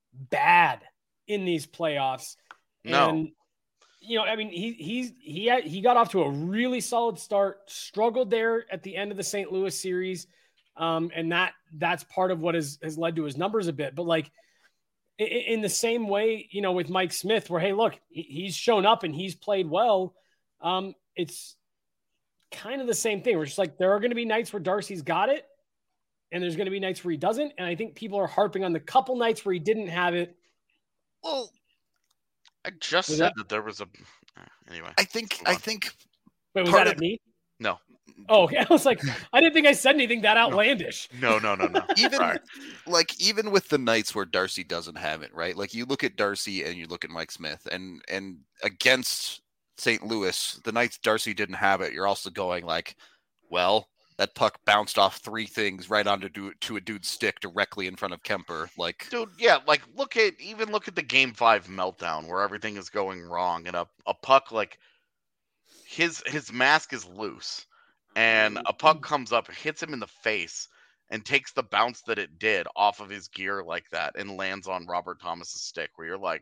bad in these playoffs. No. And, you know, I mean, he he's he had, he got off to a really solid start, struggled there at the end of the Saint Louis series. Um, and that that's part of what has, has led to his numbers a bit. But like in, in the same way, you know, with Mike Smith, where, hey, look, he's shown up and he's played well. Um, it's kind of the same thing. We're just like, there are going to be nights where Darcy's got it, and there's going to be nights where he doesn't. And I think people are harping on the couple nights where he didn't have it. Well, I just Was said that- that there was a. Anyway. I think Move I on. think Wait, was Part that of- at me? No. Oh, okay. I was like, I didn't think I said anything that outlandish. No, no, no, no. even Sorry. like even with the nights where Darcy doesn't have it, right? Like you look at Darcy and you look at Mike Smith, and and against Saint Louis, the nights Darcy didn't have it, you're also going like, well, that puck bounced off three things right onto do, to a dude's stick directly in front of Kemper. Like, Dude, yeah, like look at even look at the game five meltdown where everything is going wrong and a, a puck like his his mask is loose and a puck comes up, hits him in the face, and takes the bounce that it did off of his gear like that and lands on Robert Thomas's stick where you're like,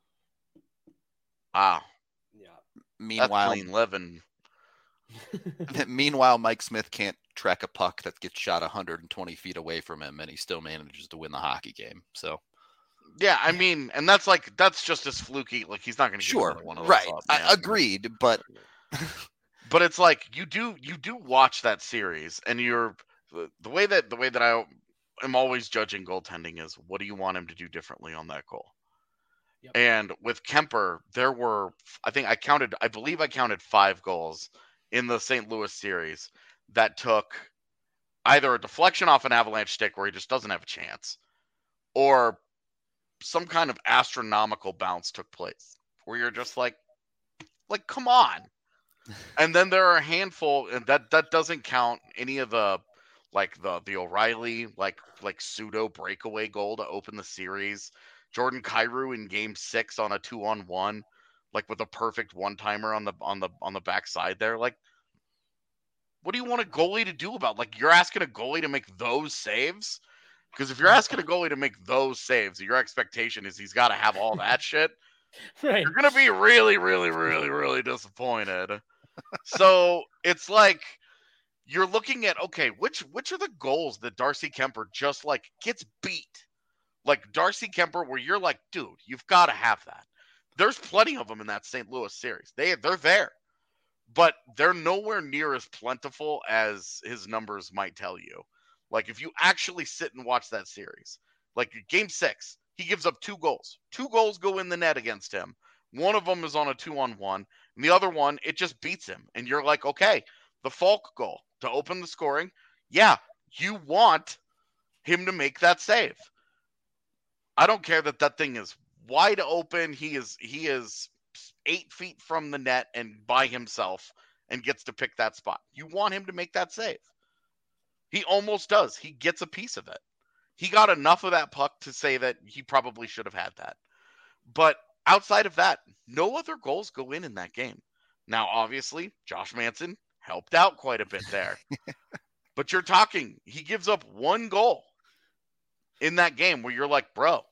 wow, Yeah. that's meanwhile, clean living. meanwhile, Mike Smith can't track a puck that gets shot one hundred twenty feet away from him, and he still manages to win the hockey game. So Yeah, I mean, and that's like that's just as fluky. Like he's not going to sure, one of those right? up, I, man. agreed, but But it's like you do you do watch that series, and you're the, the way that the way that I am always judging goaltending is what do you want him to do differently on that goal? Yep. And with Kemper, there were I think I counted I believe I counted five goals in the Saint Louis series that took either a deflection off an Avalanche stick where he just doesn't have a chance, or some kind of astronomical bounce took place where you're just like, like, come on. And then there are a handful, and that that doesn't count any of the like the the O'Reilly like like pseudo breakaway goal to open the series. Jordan Kyrou in game six on a two on one, like with a perfect one timer on the on the on the backside there. Like, what do you want a goalie to do about? Like, you're asking a goalie to make those saves? Because if you're asking a goalie to make those saves, your expectation is he's got to have all that shit. Right. You're gonna be really, really, really, really disappointed. So it's like you're looking at okay, which which are the goals that Darcy Kemper just like gets beat? Like Darcy Kemper, where you're like, dude, you've got to have that. There's plenty of them in that Saint Louis series. They they're there, but they're nowhere near as plentiful as his numbers might tell you. Like if you actually sit and watch that series, like game six, he gives up two goals. Two goals go in the net against him. One of them is on a two-on-one, and the other one, it just beats him. And you're like, okay, the Falk goal to open the scoring, yeah, you want him to make that save. I don't care that that thing is wide open. He is he is eight feet from the net and by himself and gets to pick that spot. You want him to make that save. He almost does. He gets a piece of it. He got enough of that puck to say that he probably should have had that. But outside of that, no other goals go in in that game. Now, obviously, Josh Manson helped out quite a bit there. But you're talking, he gives up one goal in that game where you're like, bro.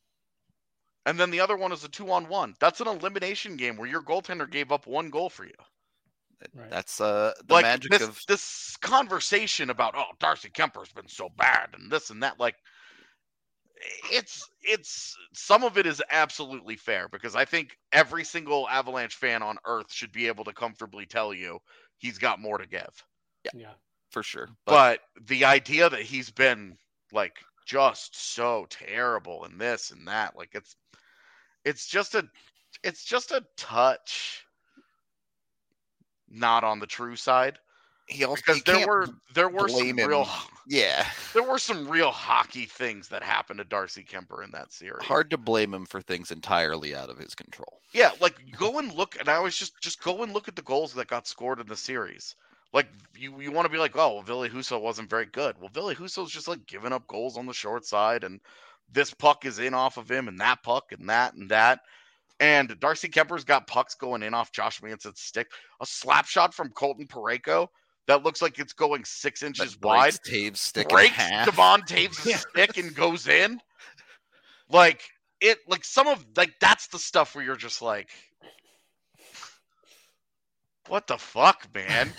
And then the other one is a two-on-one. That's an elimination game where your goaltender gave up one goal for you. Right. that's uh the Like magic this, of this conversation about, oh, Darcy Kemper's been so bad and this and that, like, it's it's some of it is absolutely fair because I think every single Avalanche fan on earth should be able to comfortably tell you he's got more to give. Yeah. for sure. But, but the idea that he's been like just so terrible and this and that, like it's it's just a it's just a touch not on the true side. he also Because you there can't were there were some blame him. real yeah, there were some real hockey things that happened to Darcy Kemper in that series. hard to blame him for things entirely out of his control. Yeah, like go and look, and I was just just go and look at the goals that got scored in the series. Like you, you want to be like, oh, well, Ville Husso wasn't very good. Well, Ville Husso's just like giving up goals on the short side, and this puck is in off of him, and that puck, and that, and that. And Darcy Kemper's got pucks going in off Josh Manson's stick. A slap shot from Colton Parayko that looks like it's going six inches That wide. breaks Taves' stick in Breaks half. Devon Taves' Yeah. stick and goes in. Like it like some of like that's the stuff where you're just like, what the fuck, man?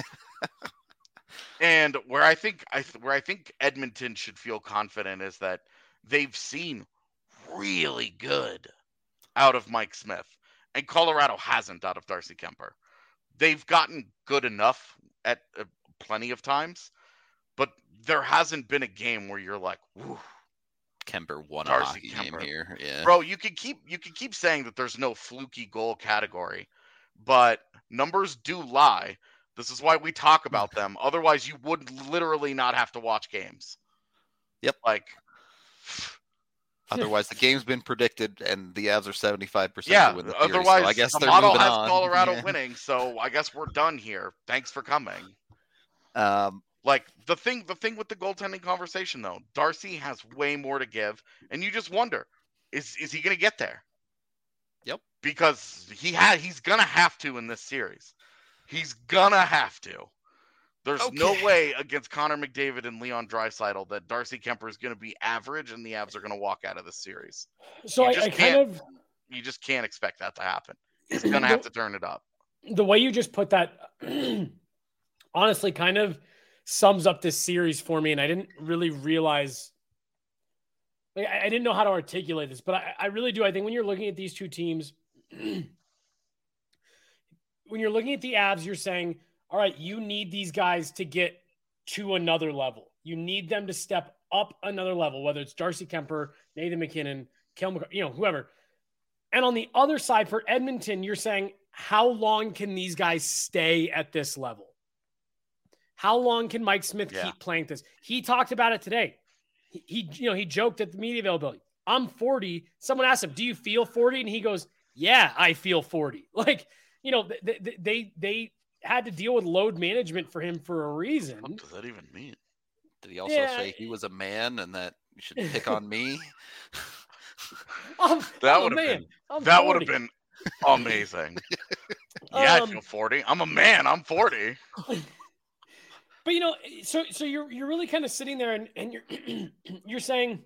And where I think I th- where I think Edmonton should feel confident is that they've seen really good out of Mike Smith, and Colorado hasn't out of Darcy Kuemper. They've gotten good enough at uh, plenty of times, but there hasn't been a game where you're like, "Woo, Kuemper won a Darcy hockey game Kuemper. here." Yeah, Bro, you can keep you can keep saying that there's no fluky goal category, but numbers do lie. This is why we talk about them. Otherwise, you would literally not have to watch games. Yep. Like, otherwise the game's been predicted, and the Avs are seventy-five percent yeah. to win the series. Otherwise, So I guess the they're model moving has on. Colorado Yeah. winning. So I guess we're done here. Thanks for coming. Um, Like the thing, the thing with the goaltending conversation, though, Darcy has way more to give, and you just wonder, is is he going to get there? Yep. Because he had, he's gonna have to in this series. He's gonna have to. There's Okay. no way against Connor McDavid and Leon Draisaitl that Darcy Kuemper is going to be average, and the Avs are going to walk out of this series. So You I, just I kind can't- of You just can't expect that to happen. He's going to have to turn it up. the way you just put that honestly kind of sums up this series for me, and I didn't really realize like I, I didn't know how to articulate this, but I, I really do. I think when you're looking at these two teams, when you're looking at the Avs, you're saying, all right, you need these guys to get to another level. You need them to step up another level, whether it's Darcy Kuemper, Nathan McKinnon, Kel McCarr, you know, whoever. And on the other side for Edmonton, you're saying, how long can these guys stay at this level? How long can Mike Smith Yeah. keep playing this? He talked about it today. He, he, you know, he joked at the media availability. I'm forty. Someone asked him, do you feel forty? And he goes, yeah, I feel forty. Like, you know, they, they, they, they had to deal with load management for him for a reason. What does that even mean? did he also Yeah. say he was a man and that you should pick on me? I'm, That I'm a would've man. been- I'm That would have forty. been amazing. yeah, I Um, feel forty. I'm a man. I'm forty. But you know, so so you're you're really kind of sitting there and, and you're you're saying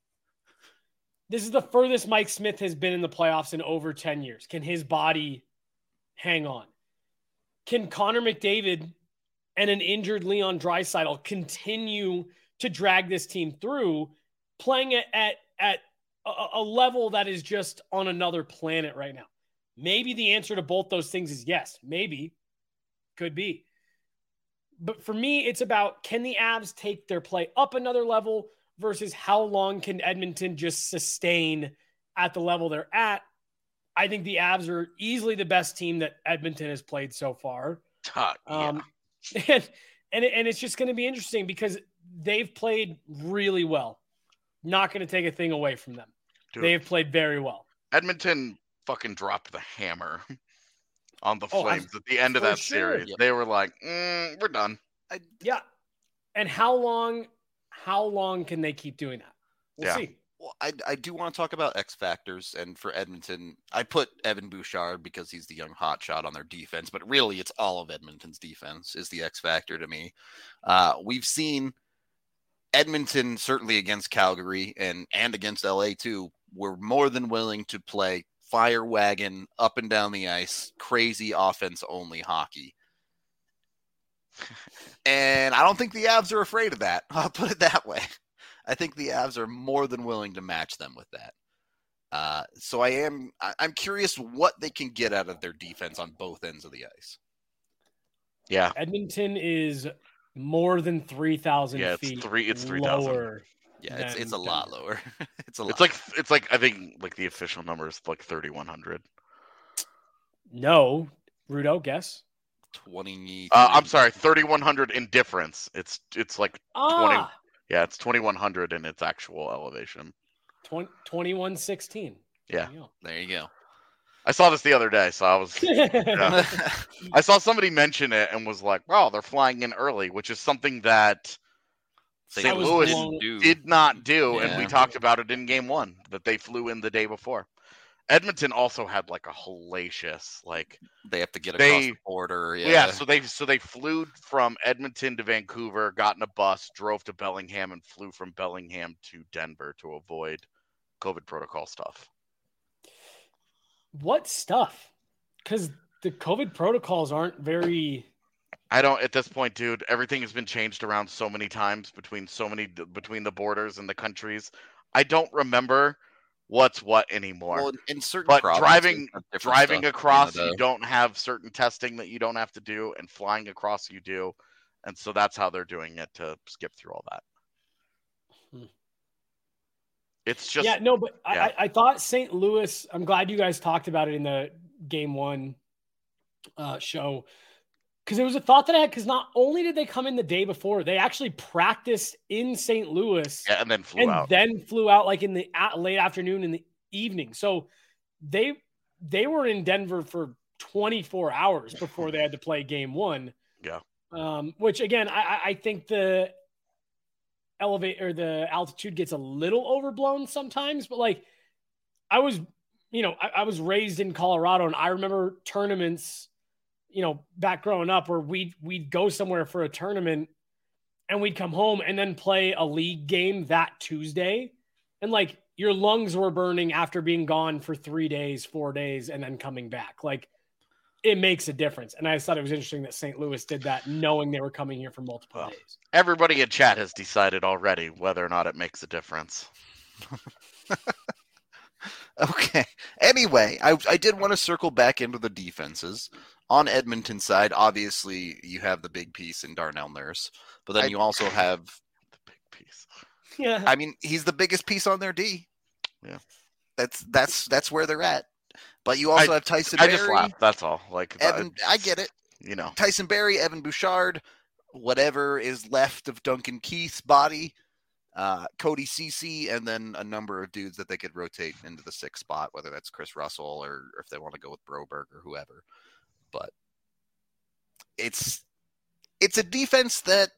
this is the furthest Mike Smith has been in the playoffs in over ten years. Can his body hang on? Can Connor McDavid and an injured Leon Draisaitl continue to drag this team through, playing it at at a, a level that is just on another planet right now? Maybe the answer to both those things is yes. Maybe. Could be. But for me, it's about, can the Avs take their play up another level versus how long can Edmonton just sustain at the level they're at? I think the Avs are easily the best team that Edmonton has played so far. Uh, yeah. Um, and, and, and it's just going to be interesting because they've played really well. Not going to take a thing away from them. Dude, They've played very well. Edmonton fucking dropped the hammer on the Oh, Flames at the end of for that sure. series. Yep. They were like, mm, we're done. Yeah. And how long, how long can they keep doing that? We'll Yeah. see. Well, I, I do want to talk about X factors, and for Edmonton, I put Evan Bouchard because he's the young hotshot on their defense, but really it's all of Edmonton's defense is the X factor to me. Uh, we've seen Edmonton, certainly against Calgary and, and against L A too, were more than willing to play fire wagon up and down the ice, crazy offense only hockey. And I don't think the Avs are afraid of that. I'll put it that way. I think the Avs are more than willing to match them with that. Uh, so I am, I, I'm curious what they can get out of their defense on both ends of the ice. Yeah. Edmonton is more than three thousand Yeah, it's feet. three- it's three thousand. lower. Yeah, it's than it's a lot Denver. lower. it's a lot. It's like it's like I think like the official number is like thirty-one hundred. No, Rudo, guess. twenty. Uh, I'm sorry, thirty-one hundred in difference. It's it's like Ah, yeah, it's twenty-one hundred in its actual elevation. twenty, twenty-one sixteen. Yeah. There you go. I saw this the other day, so I was Yeah. I saw somebody mention it and was like, "Wow, they're flying in early," which is something that Saint Saint was Louis blown- do. did not do, and we Yeah. talked about it in game one that they flew in the day before. Edmonton also had like a hellacious like They have to get across They- the border. yeah. Yeah. so they so they flew from Edmonton to Vancouver, got in a bus, drove to Bellingham, and flew from Bellingham to Denver to avoid COVID protocol stuff. What stuff? Because the COVID protocols aren't very. I don't at this point, dude. Everything has been changed around so many times between so many between the borders and the countries. I don't remember what's what anymore. Well, in certain but provinces, driving have different driving stuff. across, Canada. you don't have certain testing that you don't have to do, and flying across, you do, and so that's how they're doing it to skip through all that. Hmm. It's just yeah, no, but yeah. I, I thought Saint Louis. I'm glad you guys talked about it in the game one uh, show. Because it was a thought that I had, because not only did they come in the day before, they actually practiced in Saint Louis yeah, and then flew and out. then flew out like in the a- late afternoon in the evening. So they they were in Denver for twenty-four hours before they had to play game one. Yeah. Um, which again, I, I think the elevate or the altitude gets a little overblown sometimes, but like I was, you know, I, I was raised in Colorado, and I remember tournaments, you know, back growing up where we'd, we'd go somewhere for a tournament and we'd come home and then play a league game that Tuesday. And like your lungs were burning after being gone for three days, four days, and then coming back. Like it makes a difference. And I just thought it was interesting that Saint Louis did that, knowing they were coming here for multiple Well, days. Everybody in chat has decided already whether or not it makes a difference. Okay. Anyway, I, I did want to circle back into the defenses. On Edmonton's side, obviously, you have the big piece in Darnell Nurse, but then I- you also have, The big piece. Yeah. I mean, he's the biggest piece on their D. Yeah. That's that's that's where they're at. But you also I- have Tyson I Barrie, just laugh. That's all. Like Evan. that, I get it. You know. Tyson Barrie, Evan Bouchard, whatever is left of Duncan Keith's body, uh, Cody Ceci, and then a number of dudes that they could rotate into the sixth spot, whether that's Chris Russell or if they want to go with Broberg or whoever. But it's it's a defense that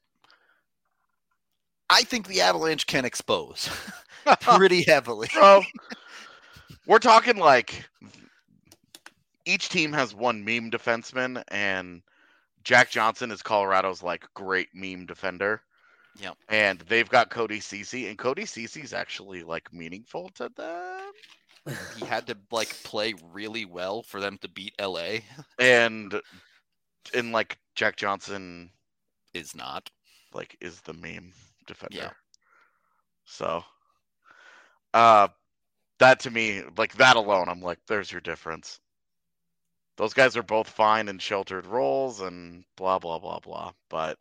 I think the Avalanche can expose pretty heavily. Bro, we're talking like each team has one meme defenseman, and Jack Johnson is Colorado's like great meme defender. Yep. And they've got Cody Ceci, and Cody Ceci's actually like meaningful to them. He had to like play really well for them to beat L A. And and like Jack Johnson Is not. like is the meme defender. Yeah. So uh that to me, like that alone, I'm like, there's your difference. Those guys are both fine in sheltered roles and blah blah blah blah. But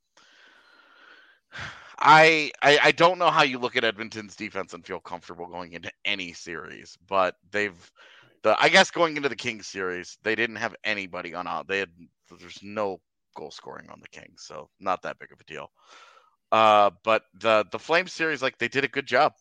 I, I I don't know how you look at Edmonton's defense and feel comfortable going into any series, but they've the I guess going into the Kings series, they didn't have anybody on out. They had there's no goal scoring on the Kings, so not that big of a deal. Uh, but the the Flames series, like they did a good job.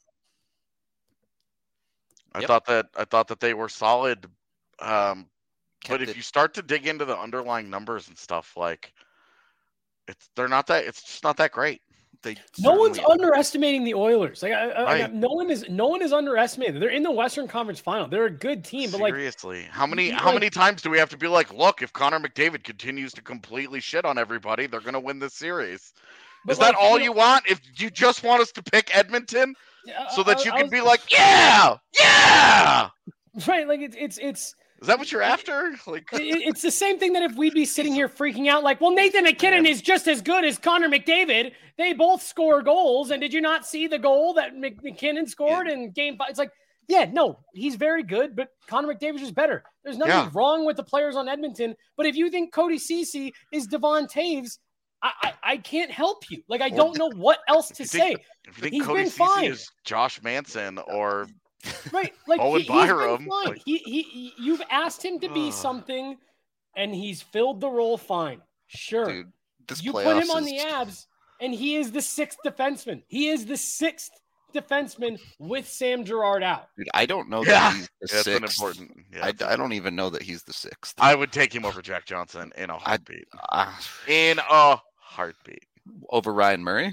I Yep. thought that I thought that they were solid. Um, but Kept if it- you start to dig into the underlying numbers and stuff, like it's they're not that it's just not that great. They No one's certainly- underestimating the Oilers. Like, I, I, Right. no one is. No one is underestimated. They're in the Western Conference Final. They're a good team, but like, Seriously, how many you- how like- many times do we have to be like, look, if Connor McDavid continues to completely shit on everybody, they're gonna win this series. but Is that like, all know, you want? If you just want us to pick Edmonton I- so that I- you I can was- be like, yeah, yeah. right? Like it's it's it's Is that what you're after? Like, it- it's the same thing that if we'd be sitting here freaking out like, well, Nathan McKinnon Yeah. is just as good as Connor McDavid. They both score goals, and did you not see the goal that Mc- McKinnon scored in Game Five? It's like, yeah, no, he's very good, but Connor McDavid's just better. There's nothing Yeah. wrong with the players on Edmonton, but if you think Cody Ceci is Devon Taves, I, I I can't help you. Like I Well, don't know what else if to you say. think- if you think He's Cody been Ceci fine. is Josh Manson or Right, like Owen he, he's been Byram, fine. like- He, he he you've asked him to be Ugh. something, and he's filled the role fine. Sure, Dude, this you playoffs put him on is- the Abs, and he is the sixth defenseman. He is the sixth defenseman with Sam Girard out. Dude, I don't know that Yeah. he's the That's an sixth. important. Yeah, I, it's I don't even know that he's the sixth. I would take him over Jack Johnson in a heartbeat. Uh, In a heartbeat. over Ryan Murray.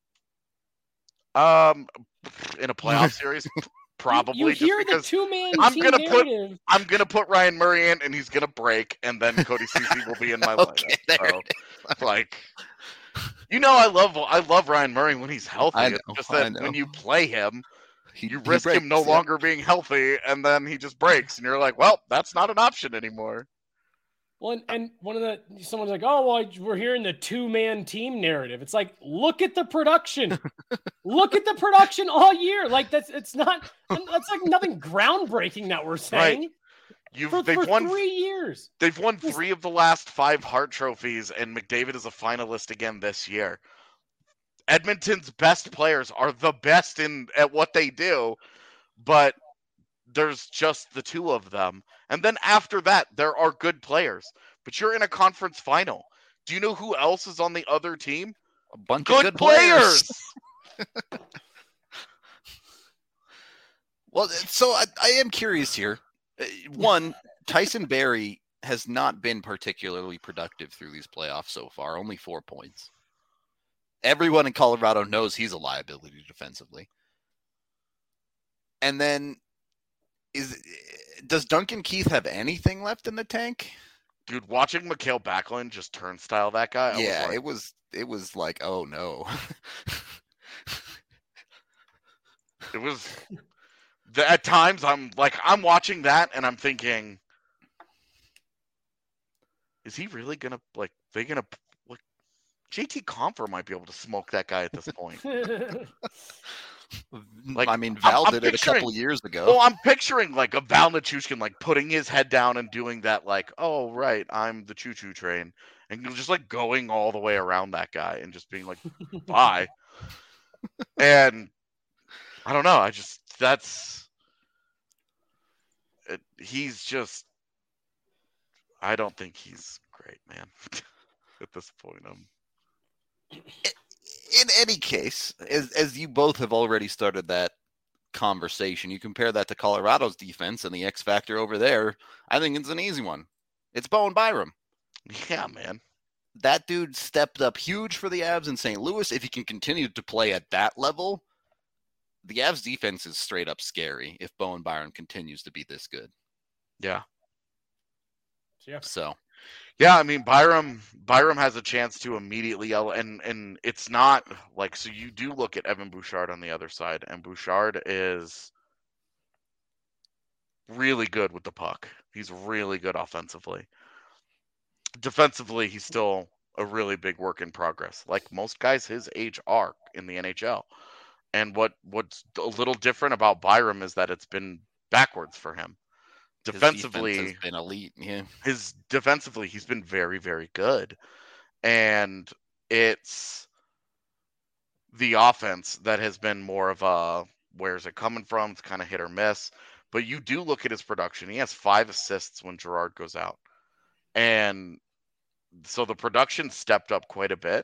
Um, in a playoff series, probably You, you just hear the because two man I'm team gonna put- narrative. I'm gonna put Ryan Murray in, and he's gonna break, and then Cody Ceci will be in my Okay, lineup. there So, it like, you know, I love I love Ryan Murray when he's healthy. I It's know, just I that know. when you play him, He, You he risk him no breaks, yeah. longer being healthy, and then he just breaks, and you're like, well, that's not an option anymore. Well, and, and one of the someone's like, oh, well, we're hearing the two-man team narrative. It's like, look at the production. Look at the production all year. Like that's it's not that's like nothing groundbreaking that we're saying. Right. You've For, they've for won three years. They've won three of the last five Hart trophies, and McDavid is a finalist again this year. Edmonton's best players are the best in at what they do, but there's just the two of them. And then after that, there are good players. But you're in a conference final. Do you know who else is on the other team? A bunch Good, of good players. players. Well, so I, I am curious here. One, Tyson Barrie has not been particularly productive through these playoffs so far. Only four points. Everyone in Colorado knows he's a liability defensively. And then, is does Duncan Keith have anything left in the tank? Dude, watching Mikhail Backlund just turnstile that guy. I yeah, was like, it was it was like, oh no. It was at times I'm like I'm watching that and I'm thinking, is he really gonna like they gonna like J T Compher might be able to smoke that guy at this point. Like, I mean, Val I'm, I'm did it a couple years ago. Well, I'm picturing like a Val Nichushkin like putting his head down and doing that, like, oh right, I'm the choo-choo train, and just like going all the way around that guy and just being like, bye. And I don't know. I just that's it, he's just. I don't think he's great, man. At this point, I'm. In any case, as as you both have already started that conversation, you compare that to Colorado's defense and the X factor over there. I think it's an easy one. It's Bowen Byram. Yeah, man. That dude stepped up huge for the Avs in Saint Louis. If he can continue to play at that level, the Avs defense is straight up scary if Bowen Byram continues to be this good. Yeah. Yeah. So. Yeah, I mean Byram. Byram has a chance to immediately yell, and and it's not like so. You do look at Evan Bouchard on the other side, and Bouchard is really good with the puck. He's really good offensively. Defensively, he's still a really big work in progress, like most guys his age are in the N H L. And what what's a little different about Byram is that it's been backwards for him. Defensively, his defense has been elite. Yeah, his defensively, he's been very, very good, and it's the offense that has been more of a where's it coming from? It's kind of hit or miss. But you do look at his production; he has five assists when Girard goes out, and so the production stepped up quite a bit.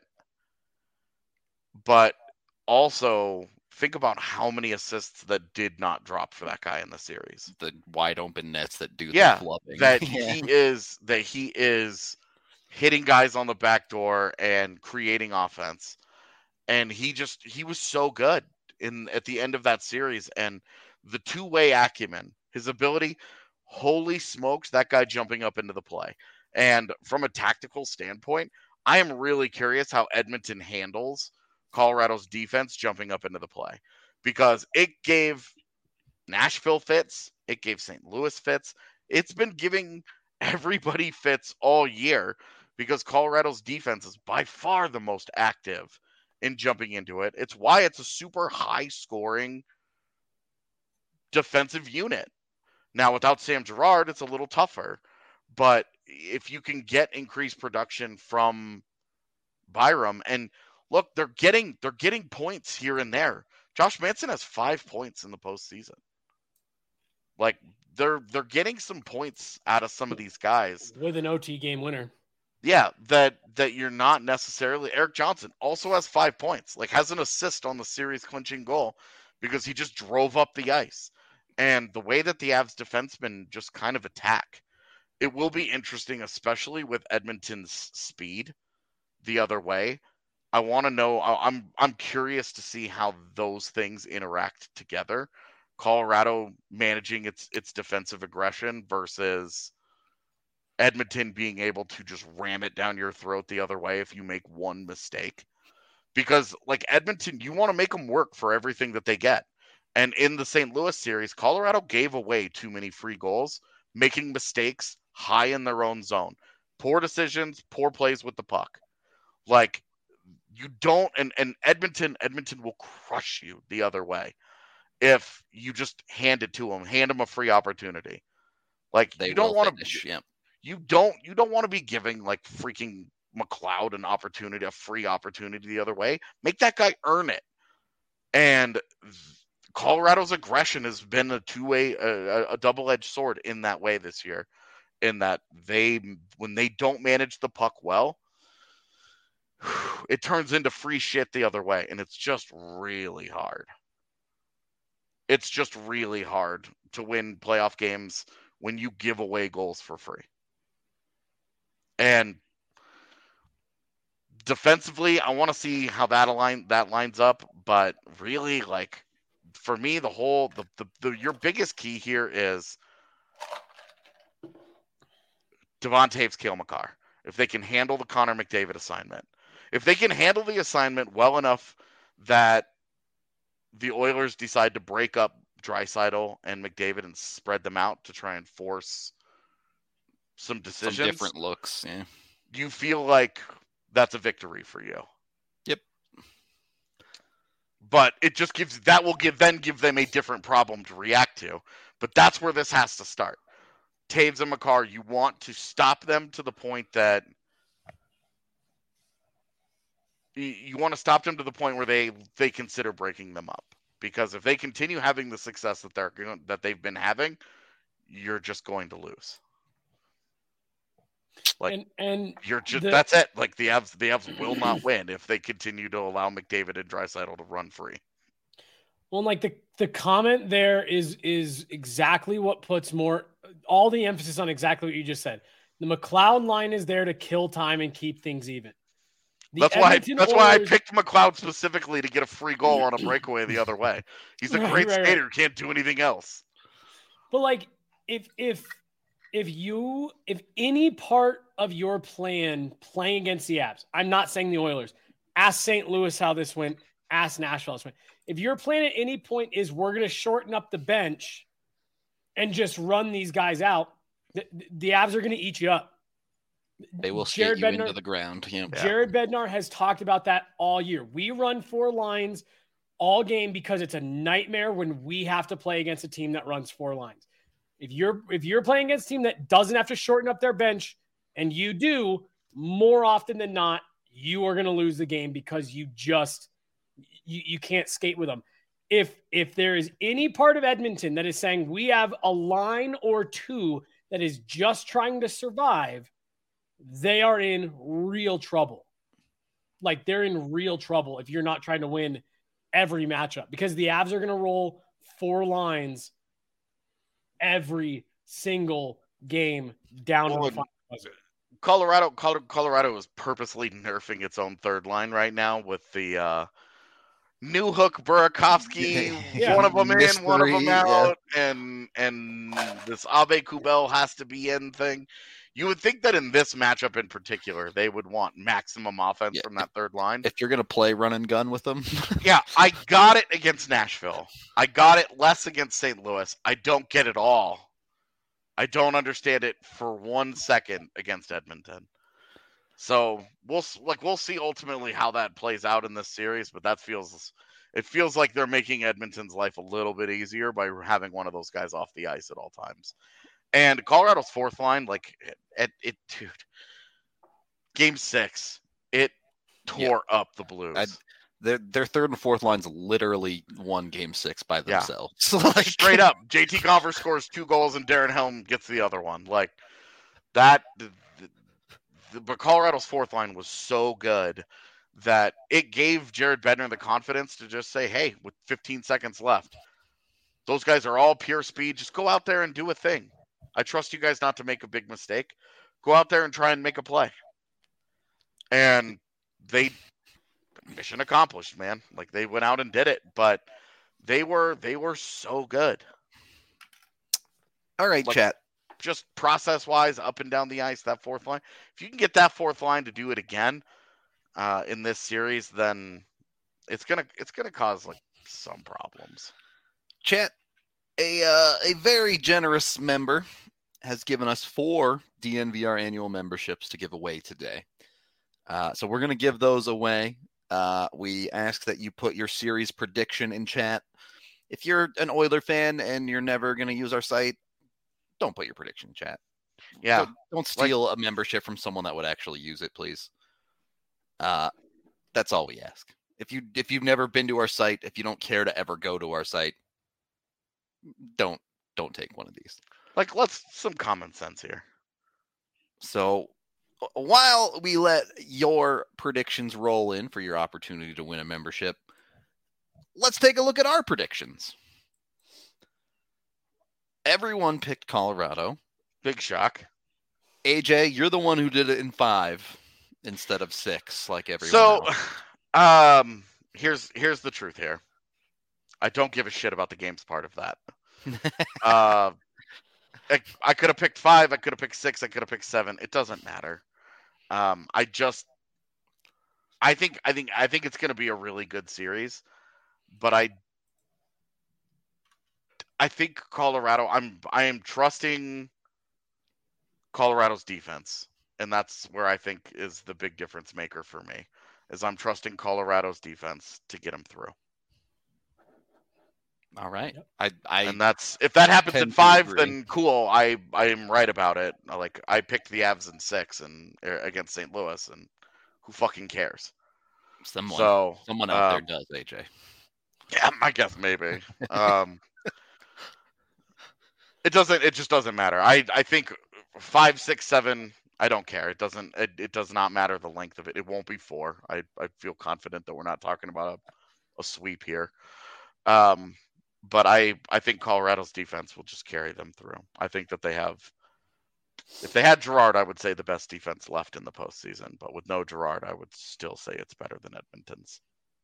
But also, think about how many assists that did not drop for that guy in the series. The wide open nets that do yeah, the flubbing. That yeah. he is that he is hitting guys on the back door and creating offense. And he just he was so good in at the end of that series. And the two-way acumen, his ability, holy smokes, that guy jumping up into the play. And from a tactical standpoint, I am really curious how Edmonton handles Colorado's defense jumping up into the play, because it gave Nashville fits, it gave Saint Louis fits, it's been giving everybody fits all year because Colorado's defense is by far the most active in jumping into it. It's why it's a super high scoring defensive unit. Now without Sam Girard, it's a little tougher, but if you can get increased production from Byram, and look, they're getting they're getting points here and there. Josh Manson has five points in the postseason. Like they're they're getting some points out of some of these guys with an O T game winner. Yeah, that that you're not necessarily. Eric Johnson also has five points. Like has an assist on the series clinching goal because he just drove up the ice. And the way that the Avs defensemen just kind of attack, it will be interesting, especially with Edmonton's speed the other way. I want to know. I'm I'm curious to see how those things interact together. Colorado managing its its defensive aggression versus Edmonton being able to just ram it down your throat the other way if you make one mistake. Because like Edmonton, you want to make them work for everything that they get. And in the Saint Louis series, Colorado gave away too many free goals, making mistakes high in their own zone. Poor decisions, poor plays with the puck. Like, you don't, and, and Edmonton, Edmonton will crush you the other way if you just hand it to them, hand them a free opportunity. Like, They you don't want finish, to, yeah. you don't, you don't want to be giving like freaking McLeod an opportunity, a free opportunity the other way. Make that guy earn it. And Colorado's aggression has been a two-way, a, a double-edged sword in that way this year. In that they, when they don't manage the puck well, it turns into free shit the other way, and it's just really hard. It's just really hard to win playoff games when you give away goals for free. And defensively, I want to see how that align that lines up, but really, like, for me, the whole the, the, the your biggest key here is Devon Toews, Cale Makar. If they can handle the Connor McDavid assignment, if they can handle the assignment well enough that the Oilers decide to break up Draisaitl and McDavid and spread them out to try and force some decisions, Some different looks. Yeah. you feel like that's a victory for you. Yep. But it just gives that will give then give them a different problem to react to. But that's where this has to start. Toews and Makar, you want to stop them to the point that you, you want to stop them to the point where they they consider breaking them up. Because if they continue having the success that they're that they've been having, you're just going to lose. Like, and, and you're just the, that's it. Like the Avs, the Avs will not win if they continue to allow McDavid and Draisaitl to run free. Well, like the the comment there is is exactly what puts more all the emphasis on exactly what you just said. The McLeod line is there to kill time and keep things even. The that's why. Edmonton That's Oilers, why I picked McLeod specifically to get a free goal on a breakaway the other way. He's a Right, great right, skater. right. Can't do anything else. But like, if if if you if any part of your plan playing against the Avs, I'm not saying the Oilers. Ask Saint Louis how this went. Ask Nashville how this went. If your plan at any point is we're going to shorten up the bench and just run these guys out, the, the Avs are going to eat you up. They will Jared skate you Bednar, into the ground. Yeah. Jared Bednar has talked about that all year. We run four lines all game because it's a nightmare when we have to play against a team that runs four lines. If you're if you're playing against a team that doesn't have to shorten up their bench, and you do, more often than not, you are going to lose the game because you just you, you can't skate with them. If if there is any part of Edmonton that is saying we have a line or two that is just trying to survive, they are in real trouble. Like, they're in real trouble if you're not trying to win every matchup, because the Avs are going to roll four lines every single game down Well, to the final buzzer. Colorado, Colorado is purposely nerfing its own third line right now with the uh, New Hook, Burakovsky, Yeah. one of them in, Mystery, one of them yeah. out, and and this Abe Kubel has to be in thing. You would think that in this matchup in particular, they would want maximum offense Yeah. from that third line. If you're going to play run and gun with them. Yeah, I got it against Nashville. I got it less against Saint Louis. I don't get it all. I don't understand it for one second against Edmonton. So we'll like we'll see ultimately how that plays out in this series, but that feels it feels like they're making Edmonton's life a little bit easier by having one of those guys off the ice at all times. And Colorado's fourth line, like it, it, it dude, game six, it tore yeah. up the Blues. I'd, their their third and fourth lines literally won game six by themselves. Yeah. like, Straight up, J T Compher scores two goals and Darren Helm gets the other one. Like that. The, the, but Colorado's fourth line was so good that it gave Jared Bednar the confidence to just say, "Hey, with fifteen seconds left, those guys are all pure speed. Just go out there and do a thing. I trust you guys not to make a big mistake. Go out there and try and make a play." And they, mission accomplished, man. Like they went out and did it, but they were they were so good. All right, like, chat. Just process wise, up and down the ice, that fourth line. If you can get that fourth line to do it again uh, in this series, then it's gonna it's gonna cause like some problems. Chat, a uh, a very generous member has given us four D N V R annual memberships to give away today. Uh, so we're going to give those away. Uh, we ask that you put your series prediction in chat. If you're an Oiler fan and you're never going to use our site, don't put your prediction in chat. Yeah. Don't, don't steal like, a membership from someone that would actually use it, please. Uh, that's all we ask. If you if you've never been to our site, if you don't care to ever go to our site, don't don't take one of these. Like, let's some common sense here. So while we let your predictions roll in for your opportunity to win a membership, let's take a look at our predictions. Everyone picked Colorado. Big shock. A J, you're the one who did it in five instead of six, like everyone so, else. um, here's here's the truth here. I don't give a shit about the games part of that. uh, I, I could have picked five. I could have picked six. I could have picked seven. It doesn't matter. Um, I just, I think, I think, I think it's going to be a really good series, but I, I think Colorado. I'm, I am trusting Colorado's defense, and that's where I think is the big difference maker for me. Is I'm trusting Colorado's defense to get them through. All right. Yep. I, I, and that's if that happens in five, agree. then cool. I, I am right about it. Like I picked the Avs in six and against Saint Louis, and who fucking cares? Someone, so someone out uh, there does, A J. Yeah, I guess maybe. um, it doesn't. It just doesn't matter. I, I think five, six, seven. I don't care. It doesn't. It, it does not matter the length of it. It won't be four. I, I feel confident that we're not talking about a, a sweep here. Um. But I, I think Colorado's defense will just carry them through. I think that they have, if they had Girard, I would say the best defense left in the postseason. But with no Girard, I would still say it's better than Edmonton's.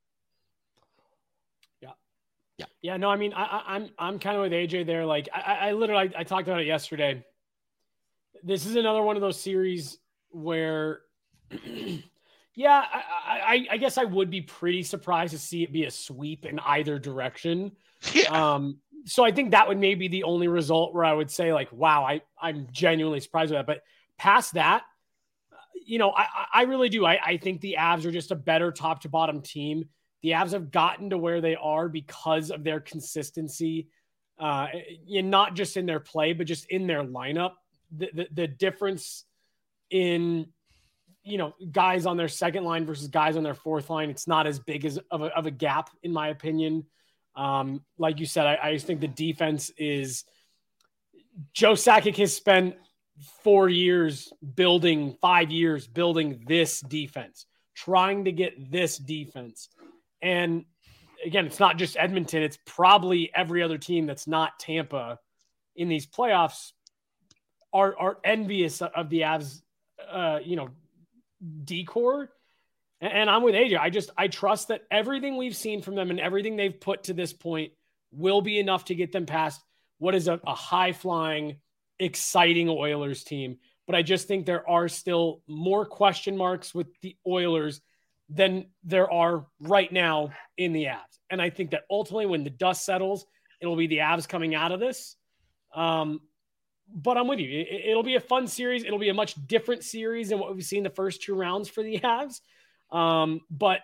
Yeah, yeah, yeah. No, I mean, I, I, I'm I'm kind of with A J there. Like, I, I literally, I, I talked about it yesterday. This is another one of those series where, yeah, I, I, I guess I would be pretty surprised to see it be a sweep in either direction. Yeah. Um, so I think that would maybe be the only result where I would say like, wow, I, I'm genuinely surprised with that. But past that, you know, I, I really do. I, I think the Avs are just a better top to bottom team. The Avs have gotten to where they are because of their consistency, uh, and not just in their play, but just in their lineup. The, the, the difference in, you know, guys on their second line versus guys on their fourth line, it's not as big as of a, of a gap, in my opinion. Um, like you said, I, I just think the defense is Joe Sakic has spent four years building, five years building this defense, trying to get this defense. And again, it's not just Edmonton. It's probably every other team that's not Tampa in these playoffs are, are envious of the Avs, uh, you know, decor. And I'm with A J. I just, I trust that everything we've seen from them and everything they've put to this point will be enough to get them past what is a, a high-flying, exciting Oilers team. But I just think there are still more question marks with the Oilers than there are right now in the Avs. And I think that ultimately when the dust settles, it'll be the Avs coming out of this. Um, but I'm with you. It, it'll be a fun series. It'll be a much different series than what we've seen the first two rounds for the Avs. Um, but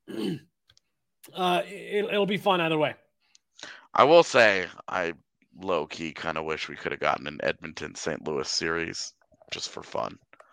uh, it, it'll be fun either way. I will say, I low key kind of wish we could have gotten an Edmonton Saint Louis series just for fun.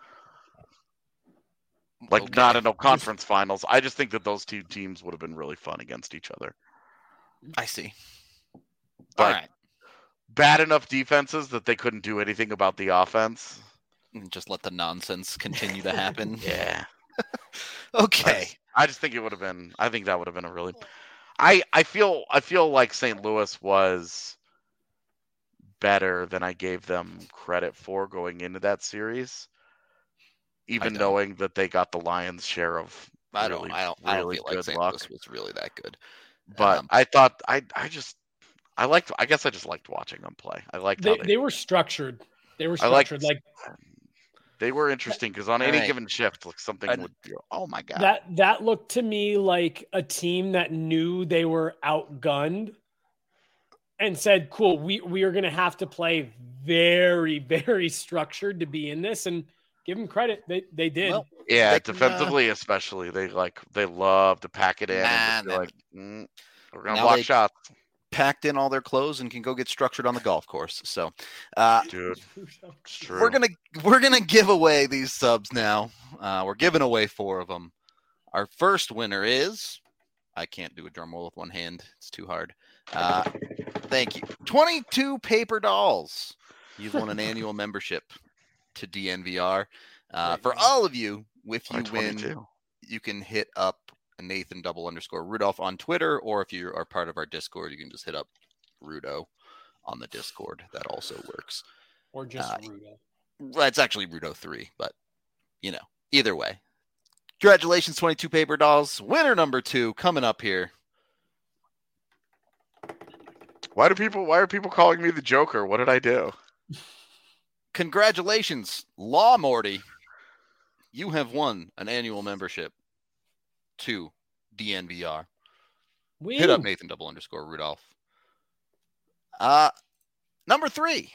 Like, Okay. not in no conference finals. I just think that those two teams would have been really fun against each other. I see. But All right. bad enough defenses that they couldn't do anything about the offense. Just let the nonsense continue to happen. Yeah. Okay. I just, I just think it would have been. I think that would have been a really. I I feel I feel like Saint Louis was better than I gave them credit for going into that series, even don't. knowing that they got the Lions' share of I really, don't. I don't. I don't really feel like good Saint luck. Louis was really that good. But Um, I thought I I just I liked. I guess I just liked watching them play. I liked They, how they they were structured. They were I liked- structured. Like they were interesting because on All any right. given shift, like something I- would. Be, oh my god! that, that looked to me like a team that knew they were outgunned and said, cool, we, we are going to have to play very, very structured to be in this, and give them credit. They, they did. Well, Yeah, they can, defensively especially, they like they love to pack it in Nah, and just be nah. like, mm, we're gonna Now block they- shots, packed in all their clothes and can go get structured on the golf course. So, uh, dude. It's true. we're gonna we're gonna give away these subs now. Uh, we're giving away four of them. Our first winner is, I can't do a drum roll with one hand. It's too hard. Uh, thank you. twenty-two paper dolls. You've won an annual membership to D N V R. Uh, for all of you, if you win, twenty-two. you can hit up Nathan double underscore Rudolph on Twitter, or if you are part of our Discord, you can just hit up Rudo on the Discord. That also works. Or just Uh, Rudo. Well, it's actually Rudo three, but you know, either way. Congratulations, twenty-two paper dolls. Winner number two coming up here. Why do people? Why are people calling me the Joker? What did I do? Congratulations, Law Morty. You have won an annual membership to D N V R. We Hit up Nathan double underscore Rudolph. Uh, number three.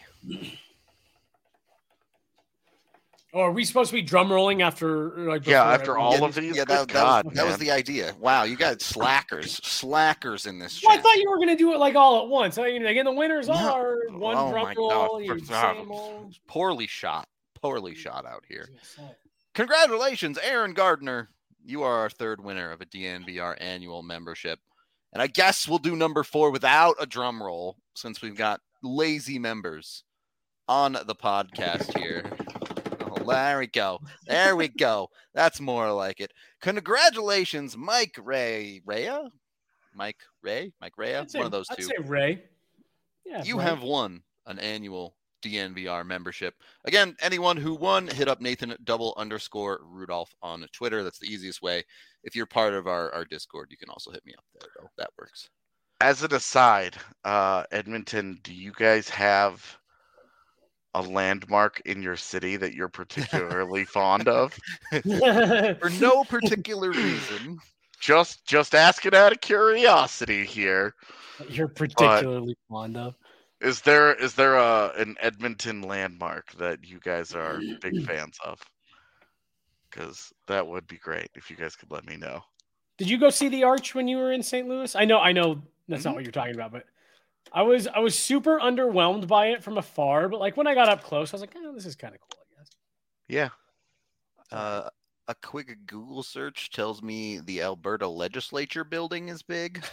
Oh, are we supposed to be drum rolling after like Yeah, before after everyone- all Yeah, of these. yeah, Good that, that God, was, that was man. the idea. Wow, you got slackers, slackers in this Well, I chat. thought you were going to do it like all at once. I mean, again, the winners No. are one Oh drum my roll. God. You For- same old. Poorly shot, poorly shot out I here. was gonna say. Congratulations, Aaron Gardner. You are our third winner of a D N V R annual membership. And I guess we'll do number four without a drum roll since we've got lazy members on the podcast here. Oh, there we go. There we go. That's more like it. Congratulations, Mike Ray. Rhea? Mike Ray? Mike Ray? I'd One say, of those I'd two. say Ray. Yeah, You Ray. have won an annual D N V R membership. Again, anyone who won, hit up Nathan double underscore Rudolph on Twitter. That's the easiest way. If you're part of our, our Discord, you can also hit me up there, though. That works. As an aside, uh, Edmonton, do you guys have a landmark in your city that you're particularly fond of? For no particular reason. Just, just asking out of curiosity here. You're particularly fond of. Is there is there a an Edmonton landmark that you guys are big fans of? Because that would be great if you guys could let me know. Did you go see the Arch when you were in Saint Louis? I know, I know that's Mm-hmm. not what you're talking about, but I was I was super underwhelmed by it from afar. But like when I got up close, I was like, oh, this is kind of cool, I guess. Yeah. Uh, a quick Google search tells me the Alberta legislature building is big.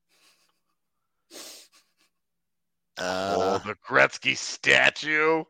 Uh, oh, the Gretzky statue.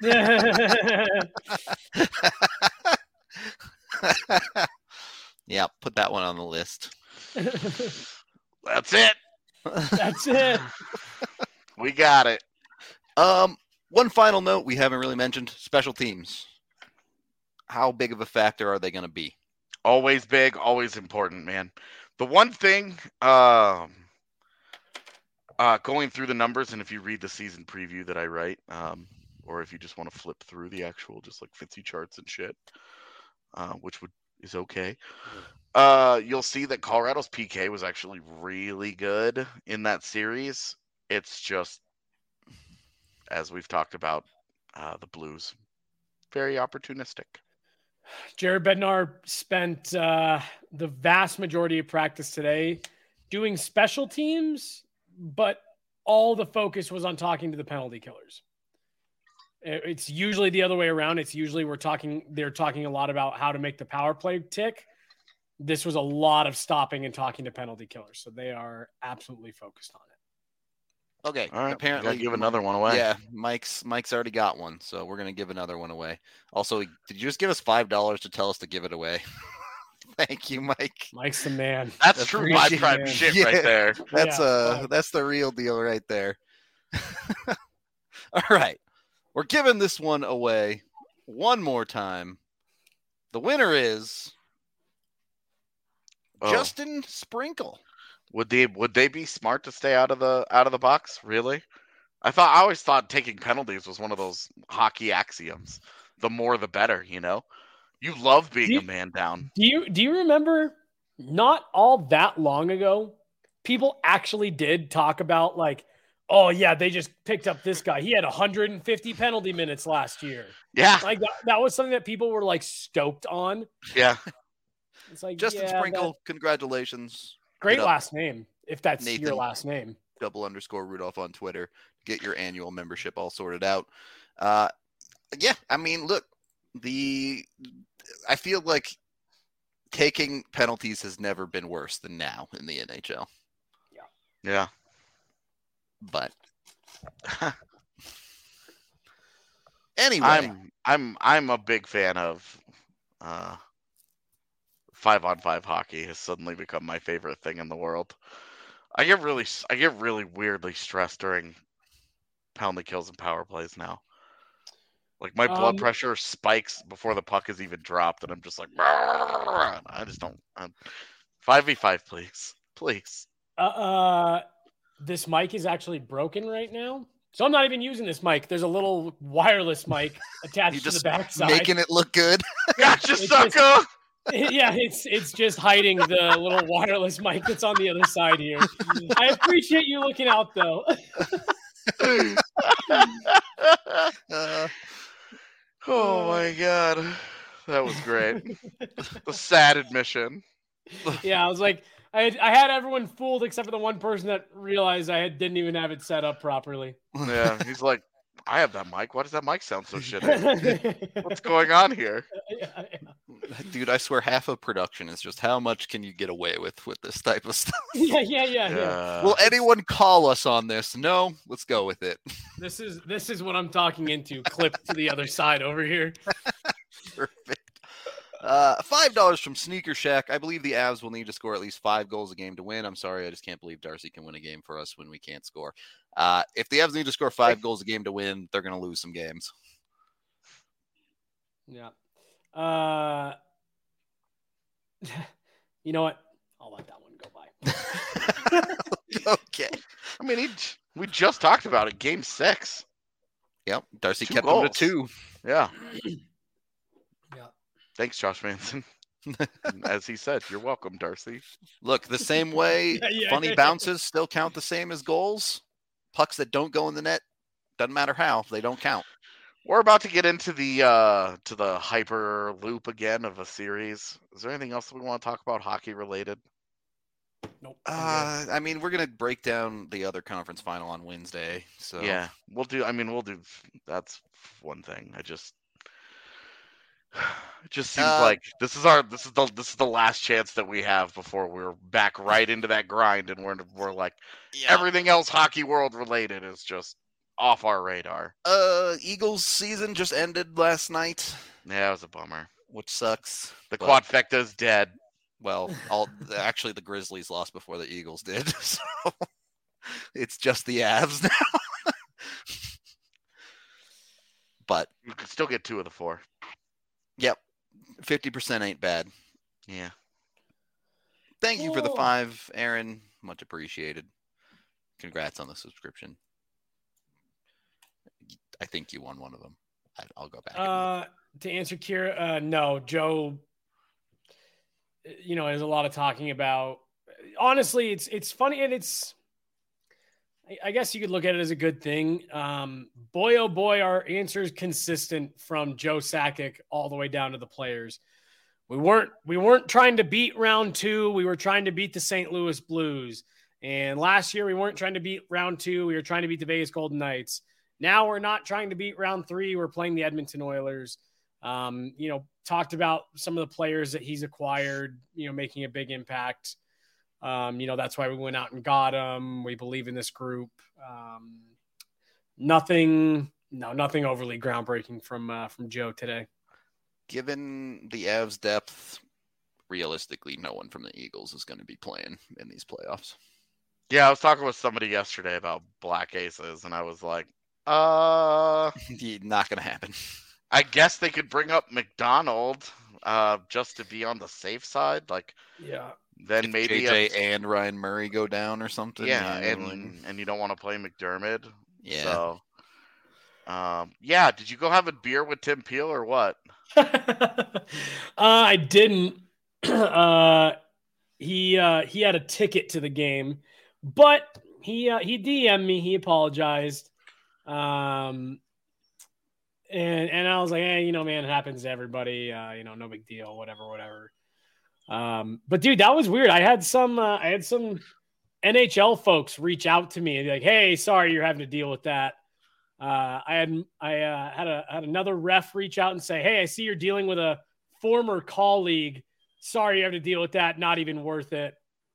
yeah, put that one on the list. That's it. That's it. We got it. Um, one final note we haven't really mentioned: special teams. How big of a factor are they going to be? Always big, always important, man. The one thing, um, uh, going through the numbers, and if you read the season preview that I write, um, or if you just want to flip through the actual, just like fancy charts and shit, uh, which would is okay. Uh, you'll see that Colorado's P K was actually really good in that series. It's just, as we've talked about, uh, the Blues, very opportunistic. Jared Bednar spent uh, the vast majority of practice today doing special teams, but all the focus was on talking to the penalty killers. It's usually the other way around. It's usually we're talking, they're talking a lot about how to make the power play tick. This was a lot of stopping and talking to penalty killers. So they are absolutely focused on it. Okay, All right, apparently apparently give another one away. Yeah, Mike's Mike's already got one, so we're gonna give another one away. Also, did you just give us five dollars to tell us to give it away? Thank you, Mike. Mike's the man. That's true Appreciate vibe tribe it. shit Yeah. right there. That's Yeah, uh fine. that's the real deal right there. All right. We're giving this one away one more time. The winner is Oh. Justin Sprinkle. Would they would they be smart to stay out of the out of the box? Really? I thought I always thought taking penalties was one of those hockey axioms. The more the better, you know? You love being Do you- a man down. Do you do you remember not all that long ago, people actually did talk about like, oh yeah, they just picked up this guy. He had one hundred fifty penalty minutes last year. Yeah. Like that, that was something that people were like stoked on. Yeah. It's like Justin yeah, Sprinkle, that, congratulations. great Hit up last name, if that's Nathan. your last name. Double underscore Rudolph on Twitter. Get your annual membership all sorted out. Uh, yeah, I mean, look, the I feel like taking penalties has never been worse than now in the N H L. Yeah. But anyway, I'm I'm I'm a big fan of uh, five on five hockey. Has suddenly become my favorite thing in the world. I get really I get really weirdly stressed during penalty kills and power plays now. Like my blood Um, pressure spikes before the puck is even dropped, and I'm just like, I just don't. Five v five, please, please. Uh, uh, this mic is actually broken right now, so I'm not even using this mic. There's a little wireless mic attached you to the just backside. making it look good. Gotcha, It's sucker. just- yeah, it's it's just hiding the little wireless mic that's on the other side here. I appreciate you looking out, though. Uh, Oh my god, that was great. The sad admission. Yeah, I was like, I had, I had everyone fooled except for the one person that realized I had, didn't even have it set up properly. Yeah, he's like, I have that mic. Why does that mic sound so shitty? What's going on here? Yeah, yeah. dude, I swear half of production is just how much can you get away with with this type of stuff. yeah, yeah, yeah, yeah. Yeah. Will anyone call us on this? No, let's go with it. This is this is what I'm talking into. Clip to the other side over here. Perfect. Uh, five dollars from Sneaker Shack. I believe the Avs will need to score at least five goals a game to win. I'm sorry, I just can't believe Darcy can win a game for us when we can't score. Uh, if the Avs need to score five goals a game to win, they're going to lose some games. Yeah. Uh, you know what? I'll let that one go by. Okay. I mean, he, we just talked about it. Game six. Yep. Darcy Two kept goals. them to two. Yeah. Yeah. Thanks, Josh Manson. As he said, you're welcome, Darcy. Look, the same way Yeah, yeah, funny yeah. bounces still count the same as goals. Pucks that don't go in the net, doesn't matter how, they don't count. We're about to get into the uh, to the hyper loop again of a series. Is there anything else that we want to talk about hockey related? Nope. I'm Uh, I mean, we're going to break down the other conference final on Wednesday. So Yeah, we'll do. I mean, we'll do. That's one thing. I just, it just seems Uh, like this is our this is the this is the last chance that we have before we're back right into that grind, and we're we're like yeah. everything else hockey world related is just off our radar. Uh, Eagles season just ended last night, Yeah, it was a bummer. which sucks. The but- quadfecta's dead. Well, all actually the Grizzlies lost before the Eagles did, so it's just the Avs now. But You can still get two of the four. yep, fifty percent ain't bad. Yeah. Thank you for the Cool. five, Aaron. Much appreciated. Congrats on the subscription. I think you won one of them. I, I'll go back. and look. Uh, to answer Kira, uh, no, Joe. You know, there's a lot of talking about. Honestly, it's it's funny and it's. I- I guess you could look at it as a good thing. Um, boy, oh boy, our answer is consistent from Joe Sakic all the way down to the players. We weren't we weren't trying to beat round two. We were trying to beat the Saint Louis Blues. And last year we weren't trying to beat round two. We were trying to beat the Vegas Golden Knights. Now we're not trying to beat round three. We're playing the Edmonton Oilers. Um, you know, talked about some of the players that he's acquired, you know, making a big impact. Um, you know, that's why we went out and got him. We believe in this group. Um, nothing, no, nothing overly groundbreaking from uh, from Joe today. Given the Avs' depth, realistically, no one from the Eagles is going to be playing in these playoffs. Yeah, I was talking with somebody yesterday about Black Aces, and I was like, uh, Not going to happen. I guess they could bring up McDonald uh, just to be on the safe side. Like, Yeah. then If maybe J J a- and Ryan Murray go down or something. yeah, you know, and like- and you don't want to play McDermott. yeah. So, um, yeah. Did you go have a beer with Tim Peel or what? uh, I didn't. uh, he uh, he had a ticket to the game, but he uh, he D M'd me. He apologized. Um, and and I was like, hey, you know, man, it happens to everybody. Uh, you know, no big deal. Whatever, whatever. Um, but dude, that was weird. I had some uh, I had some N H L folks reach out to me and be like, hey, sorry, you're having to deal with that. Uh, I had I uh, had a had another ref reach out and say, hey, I see you're dealing with a former colleague. Sorry, you have to deal with that. Not even worth it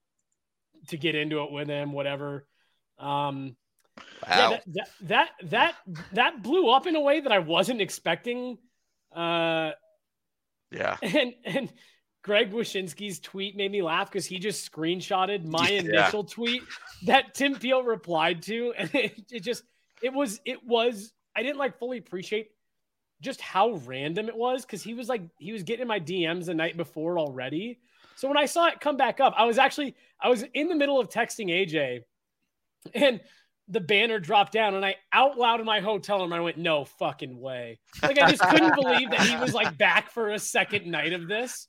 to get into it with him, whatever. Um, Wow. yeah, that, that, that, that, that blew up in a way that I wasn't expecting. Uh, Yeah. and, and Greg Wyshynski's tweet made me laugh because he just screenshotted my Yeah. initial tweet that Tim Peel replied to. And it, it just, it was, it was, I didn't like fully appreciate just how random it was. Cause he was like, he was getting in my D Ms the night before already. So when I saw it come back up, I was actually, I was in the middle of texting A J and the banner dropped down and I out loud in my hotel room, I went, no fucking way. Like, I just couldn't believe that he was like back for a second night of this.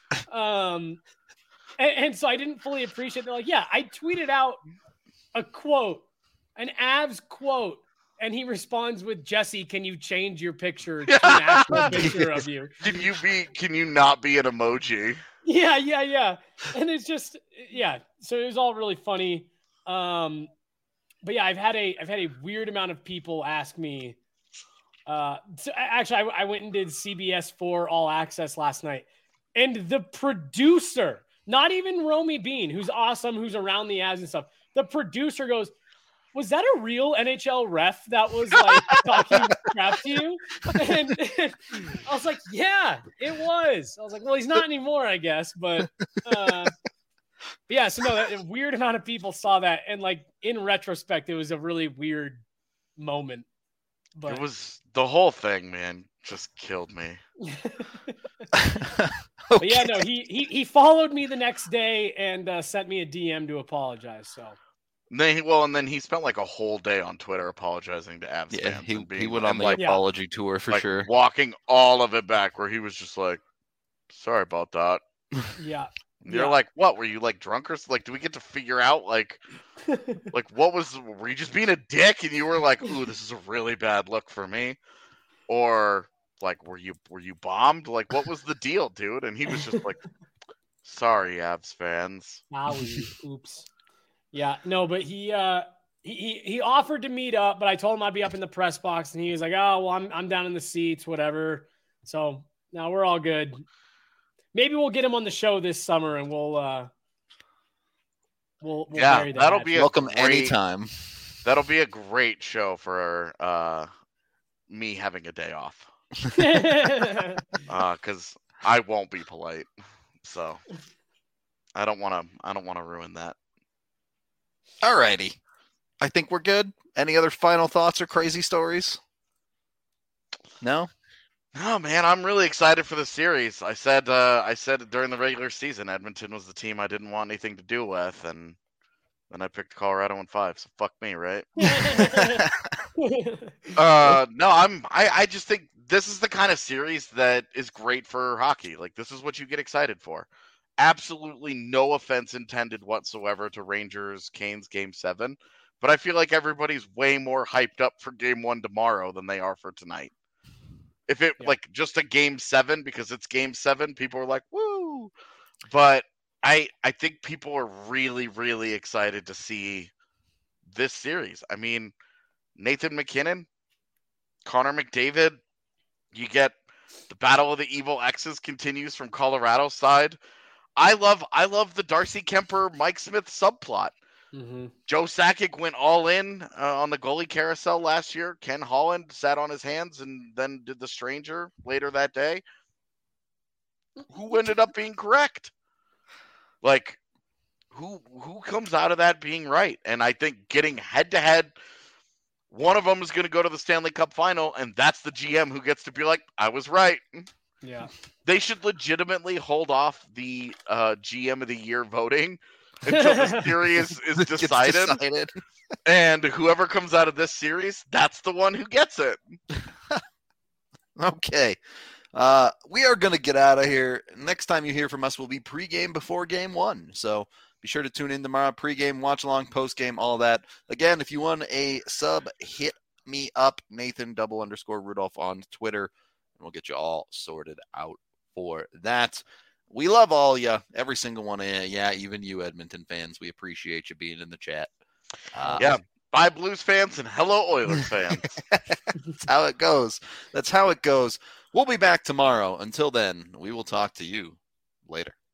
Um, and, and so I didn't fully appreciate that. Like, yeah, I tweeted out a quote, an Avs quote, and he responds with, Jesse, can you change your picture to an actual picture of you? Can you be, can you not be an emoji? Yeah, yeah, yeah. And it's just, yeah. So it was all really funny. Um, but yeah, I've had a, I've had a weird amount of people ask me, uh, so actually I, I went and did C B S four All Access last night, and the producer, not even Romy Bean, who's awesome, who's around the ads and stuff. The producer goes, was that a real N H L ref that was like talking crap to you? And, and I was like, yeah, it was. I was like, well, he's not anymore, I guess. But, uh, but yeah, so no, that, a weird amount of people saw that. And like in retrospect, it was a really weird moment. But It was the whole thing, man, just killed me. But yeah, no, he, he, he followed me the next day and uh, sent me a D M to apologize. So. And then he, well, and then he spent like a whole day on Twitter apologizing to Avs Yeah, fans. he, and being, he went on and, the like, Yeah. apology tour for like, sure. walking all of it back, where he was just like, "Sorry about that." Yeah. And you're Yeah. like, "What? Were you like drunk or s- like? Do we get to figure out like, like what was? Were you just being a dick?" And you were like, "Ooh, this is a really bad look for me," or like, "Were you were you bombed? Like, what was the deal, dude?" And he was just like, "Sorry, Avs fans." Owie. Oops. Yeah, no, but he uh he, he he offered to meet up, but I told him I'd be up in the press box, and he was like, "Oh, well, I'm I'm down in the seats, whatever." So now we're all good. Maybe we'll get him on the show this summer, and we'll uh we'll, we'll Yeah, bury that that'll hatchet. be a Welcome great- anytime. That'll be a great show for uh me having a day off. Uh, because I won't be polite, so I don't want to. I don't want to ruin that. Alrighty. I think we're good. Any other final thoughts or crazy stories? No? Oh man, I'm really excited for the series. I said. Uh, I said during the regular season, Edmonton was the team I didn't want anything to do with, and then I picked Colorado in five. So fuck me, right? Uh, no, I'm. I. I just think this is the kind of series that is great for hockey. Like, this is what you get excited for. Absolutely no offense intended whatsoever to Rangers Canes game seven, but I feel like everybody's way more hyped up for game one tomorrow than they are for tonight. If it Yeah. like just a game seven because it's game seven, people are like, woo. But I I think people are really, really excited to see this series. I mean, Nathan McKinnon, Connor McDavid, you get the Battle of the Evil X's continues from Colorado's side. I love I love the Darcy Kemper Mike Smith subplot. Mhm. Joe Sakic went all in uh, on the goalie carousel last year. Ken Holland sat on his hands and then did the stranger later that day. Who ended up being correct? Like, who who comes out of that being right? And I think getting head to head, one of them is going to go to the Stanley Cup final, and that's the G M who gets to be like, I was right. Yeah. They should legitimately hold off the uh, G M of the year voting until the series is It's decided. decided. And whoever comes out of this series, that's the one who gets it. Okay. Uh, we are going to get out of here. Next time you hear from us will be pregame before game one. So be sure to tune in tomorrow. Pregame, watch along, postgame, all that. Again, if you want a sub, hit me up, Nathan double underscore Rudolph on Twitter, and we'll get you all sorted out for that. We love all you, every single one of you. Yeah, even you Edmonton fans. We appreciate you being in the chat. Uh, Yeah. Bye, Blues fans, and hello, Oilers fans. That's how it goes. That's how it goes. We'll be back tomorrow. Until then, we will talk to you later.